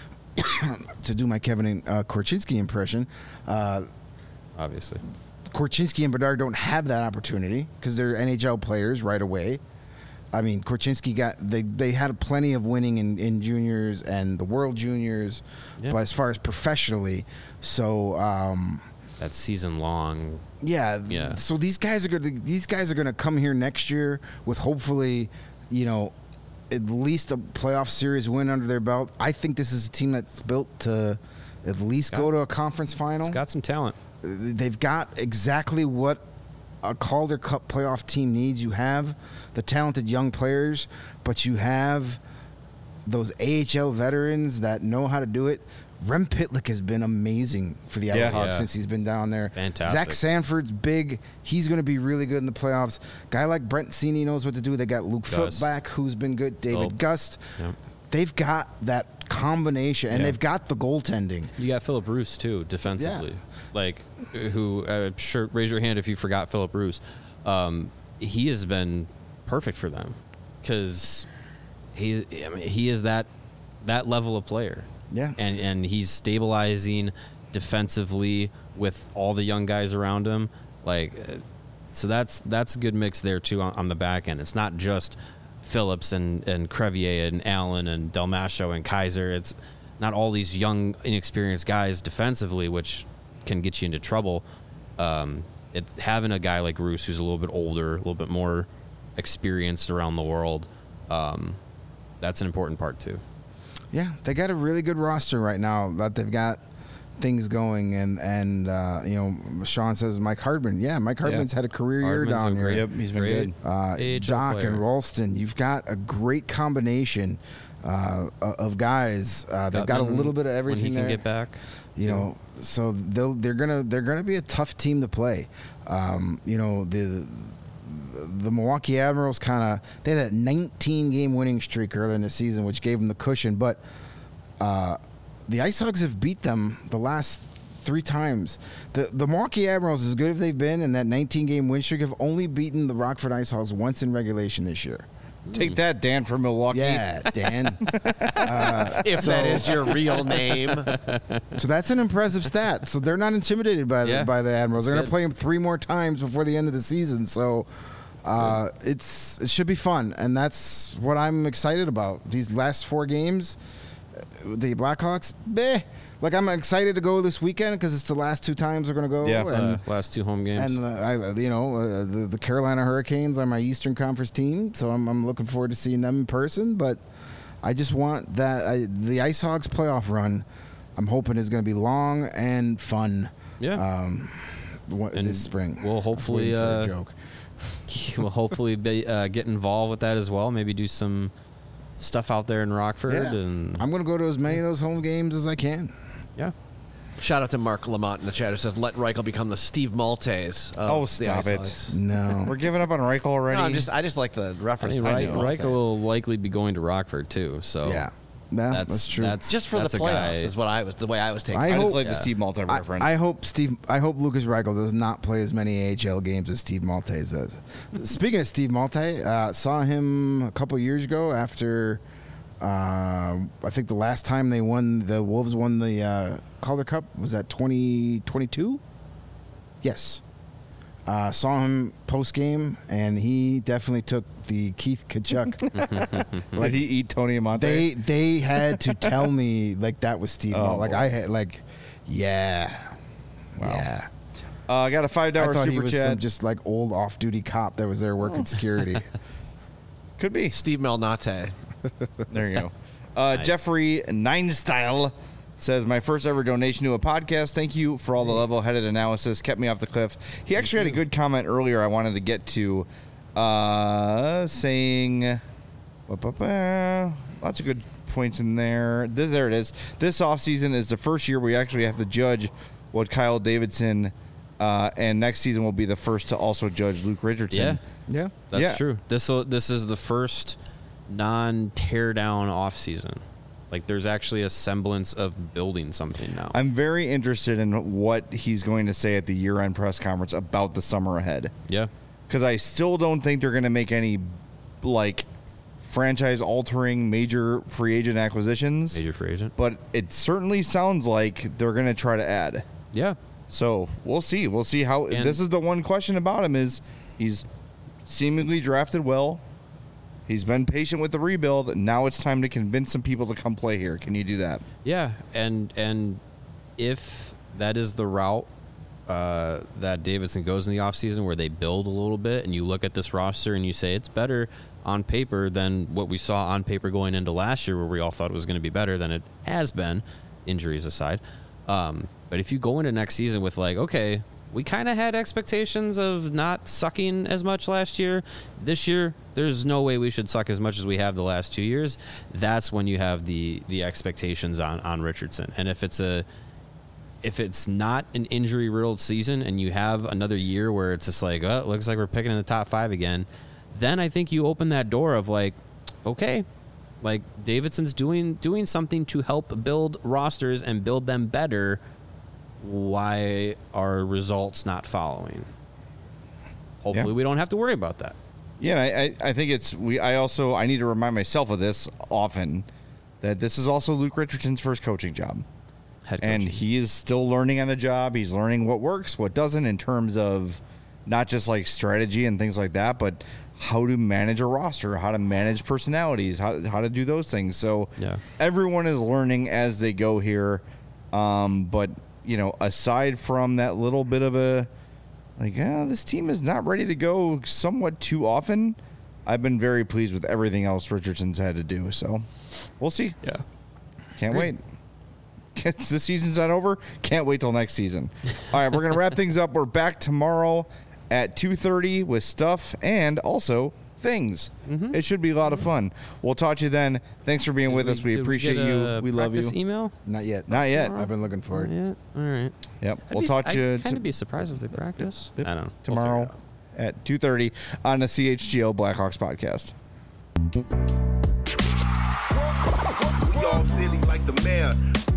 to do my Kevin uh, Korchinski impression, uh, obviously. Korchinski and Bedard don't have that opportunity because they're N H L players right away. I mean, Korchinski got they they had plenty of winning in, in juniors and the World Juniors, Yeah. but as far as professionally, so um, That season long. yeah, Yeah. So these guys are going these guys are going to come here next year with hopefully, you know, at least a playoff series win under their belt. I think this is a team that's built to at least Got- go to a conference final. It's got some talent. They've got exactly what a Calder Cup playoff team needs. You have the talented young players, but you have those A H L veterans that know how to do it. Rem Pitlick has been amazing for the Yeah. Ice Hogs Yeah. since he's been down there. Fantastic. Zach Sanford's big. He's going to be really good in the playoffs. Guy like Brent Cini knows what to do. They got Luke Foot Gust. back, who's been good. David Oh. Gust. Yep. They've got that combination, and Yeah. they've got the goaltending. You got Philip Roos too, defensively. Like, who? Uh, sure, raise your hand if you forgot Philip Roos. Um, he has been perfect for them because he, I mean, he is that that level of player. Yeah. and and he's stabilizing defensively with all the young guys around him. Like, uh, so that's that's a good mix there too on, on the back end. It's not just Phillips and and Crevier and Allen and Del Macho and Kaiser. It's not all these young inexperienced guys defensively, which can get you into trouble. Um, it's having a guy like Roos who's a little bit older, a little bit more experienced around the world. Um, that's an important part too. Yeah, they got a really good roster right now that they've got things going, and and uh, you know, Sean says Mike Hardman. Yeah, Mike Hardman's had a career year Hardman's down a here. great- Yep, he's been great good. Uh, A H L Doc player. and Ralston, you've got a great combination uh, of guys. Uh, they've got a Gutman, little bit of when everything he can there. get back. You know, so they'll they're gonna they're gonna be a tough team to play. Um, you know, the the Milwaukee Admirals kind of they had that nineteen game winning streak earlier in the season, which gave them the cushion. But uh, the Ice Hogs have beat them the last three times. The the Milwaukee Admirals, as good as they've been in that nineteen game win streak, have only beaten the Rockford Ice Hogs once in regulation this year. Take that, Dan from Milwaukee. Yeah, Dan. uh, If so- that is your real name. So that's an impressive stat. So they're not intimidated by the Yeah. by the Admirals. They're going to Good. play them three more times before the end of the season. So uh, it's it should be fun, and that's what I'm excited about. These last four games, uh, the Blackhawks, meh. Like I'm excited to go this weekend because it's the last two times we're going to go. Yeah. and, Uh, last two home games. and uh, I, you know, uh, the, the Carolina Hurricanes are my Eastern Conference team, so I'm, I'm looking forward to seeing them in person. But I just want that I, the Ice Hogs playoff run. I'm hoping is going to be long and fun. yeah. Um, what, And this spring. we'll I was hopefully, waiting for a uh, joke. we'll hopefully be, uh, get involved with that as well. Maybe do some stuff out there in Rockford. Yeah. And I'm going to go to as many of those home games as I can. yeah. Shout out to Mark Lamont in the chat who says, let Reichel become the Steve Maltese. Of Oh, the stop it. Ice No. We're giving up on Reichel already. No, I'm just, I just like the I reference. mean, to Reich, Steve Reichel Maltese. will likely be going to Rockford too. So Yeah. Yeah, that's, that's true. That's Just for that's the a playoffs guy. is what I was, the way I was taking I I it. just hope- like the yeah. Steve Malta I, reference. I hope Steve. I hope Lucas Reichel does not play as many A H L games as Steve Maltese does. Speaking of Steve Maltese, uh, saw him a couple years ago after. Uh, I think the last time they won, the Wolves won the uh, Calder Cup was that twenty twenty-two. Yes. Uh, saw him post game, and he definitely took the Keith Kachuk. Did he eat Tony Amonte? they they had to tell me like that was Steve. Oh, Mal- like boy. I had like, yeah, Wow. yeah. uh, I got a five I dollar thought he super was chat. some just like old off-duty cop that was there working security. Could be. Steve Malnate. There you go. Uh, Nice. Jeffrey Nine Style says, my first ever donation to a podcast. Thank you for all the level-headed analysis. Kept me off the cliff. He actually had a good comment earlier I wanted to get to, uh, saying, ba-ba-ba, lots of good points in there. This, there it is. This offseason is the first year we actually have to judge what Kyle Davidson, uh, and next season will be the first to also judge Luke Richardson. Yeah, yeah, that's Yeah. true. This this is the first non-tear down off season. Like there's actually a semblance of building something now. I'm very interested in what he's going to say at the year-end press conference about the summer ahead. yeah. Because I still don't think they're going to make any, like, franchise-altering major free agent acquisitions. Major free agent. But it certainly sounds like they're going to try to add. Yeah. So we'll see. We'll see how. And- this is the one question about him is he's seemingly drafted well. He's been patient with the rebuild. Now it's time to convince some people to come play here. Can you do that? Yeah, and and if that is the route uh, that Davidson goes in the offseason where they build a little bit and you look at this roster and you say it's better on paper than what we saw on paper going into last year where we all thought it was going to be better than it has been, injuries aside. Um, but if you go into next season with like, okay, we kind of had expectations of not sucking as much last year. This year, there's no way we should suck as much as we have the last two years. That's when you have the the expectations on, on Richardson. And if it's a if it's not an injury riddled season and you have another year where it's just like, oh, it looks like we're picking in the top five again, then I think you open that door of like, okay, like Davidson's doing doing something to help build rosters and build them better. Why are results not following? Hopefully, Yeah. we don't have to worry about that. Yeah, I, I I think it's we. I also I need to remind myself of this often, that this is also Luke Richardson's first coaching job, Head and coaching. he is still learning on the job. He's learning what works, what doesn't, in terms of not just like strategy and things like that, but how to manage a roster, how to manage personalities, how how to do those things. So Yeah. everyone is learning as they go here. Um, but you know, aside from that little bit of a like, ah, this team is not ready to go somewhat too often, I've been very pleased with everything else Richardson's had to do. So we'll see. yeah. Can't wait. The season's not over. Can't wait till next season. All right, we're going to wrap things up. We're back tomorrow at two thirty with stuff and also things. Mm-hmm. It should be a lot of fun. We'll talk to you then. Thanks for being with us. We Did appreciate get you. a We love you. practice Email? Not yet. Not yet. I've been looking for Not it. yet. All right. Yep. I'd We'll be, talk to you I'd kind t- of be surprised if they practice. Yep. I don't know. We'll tomorrow figure it out. at two thirty on the C H G O Blackhawks podcast. We all silly like the mayor.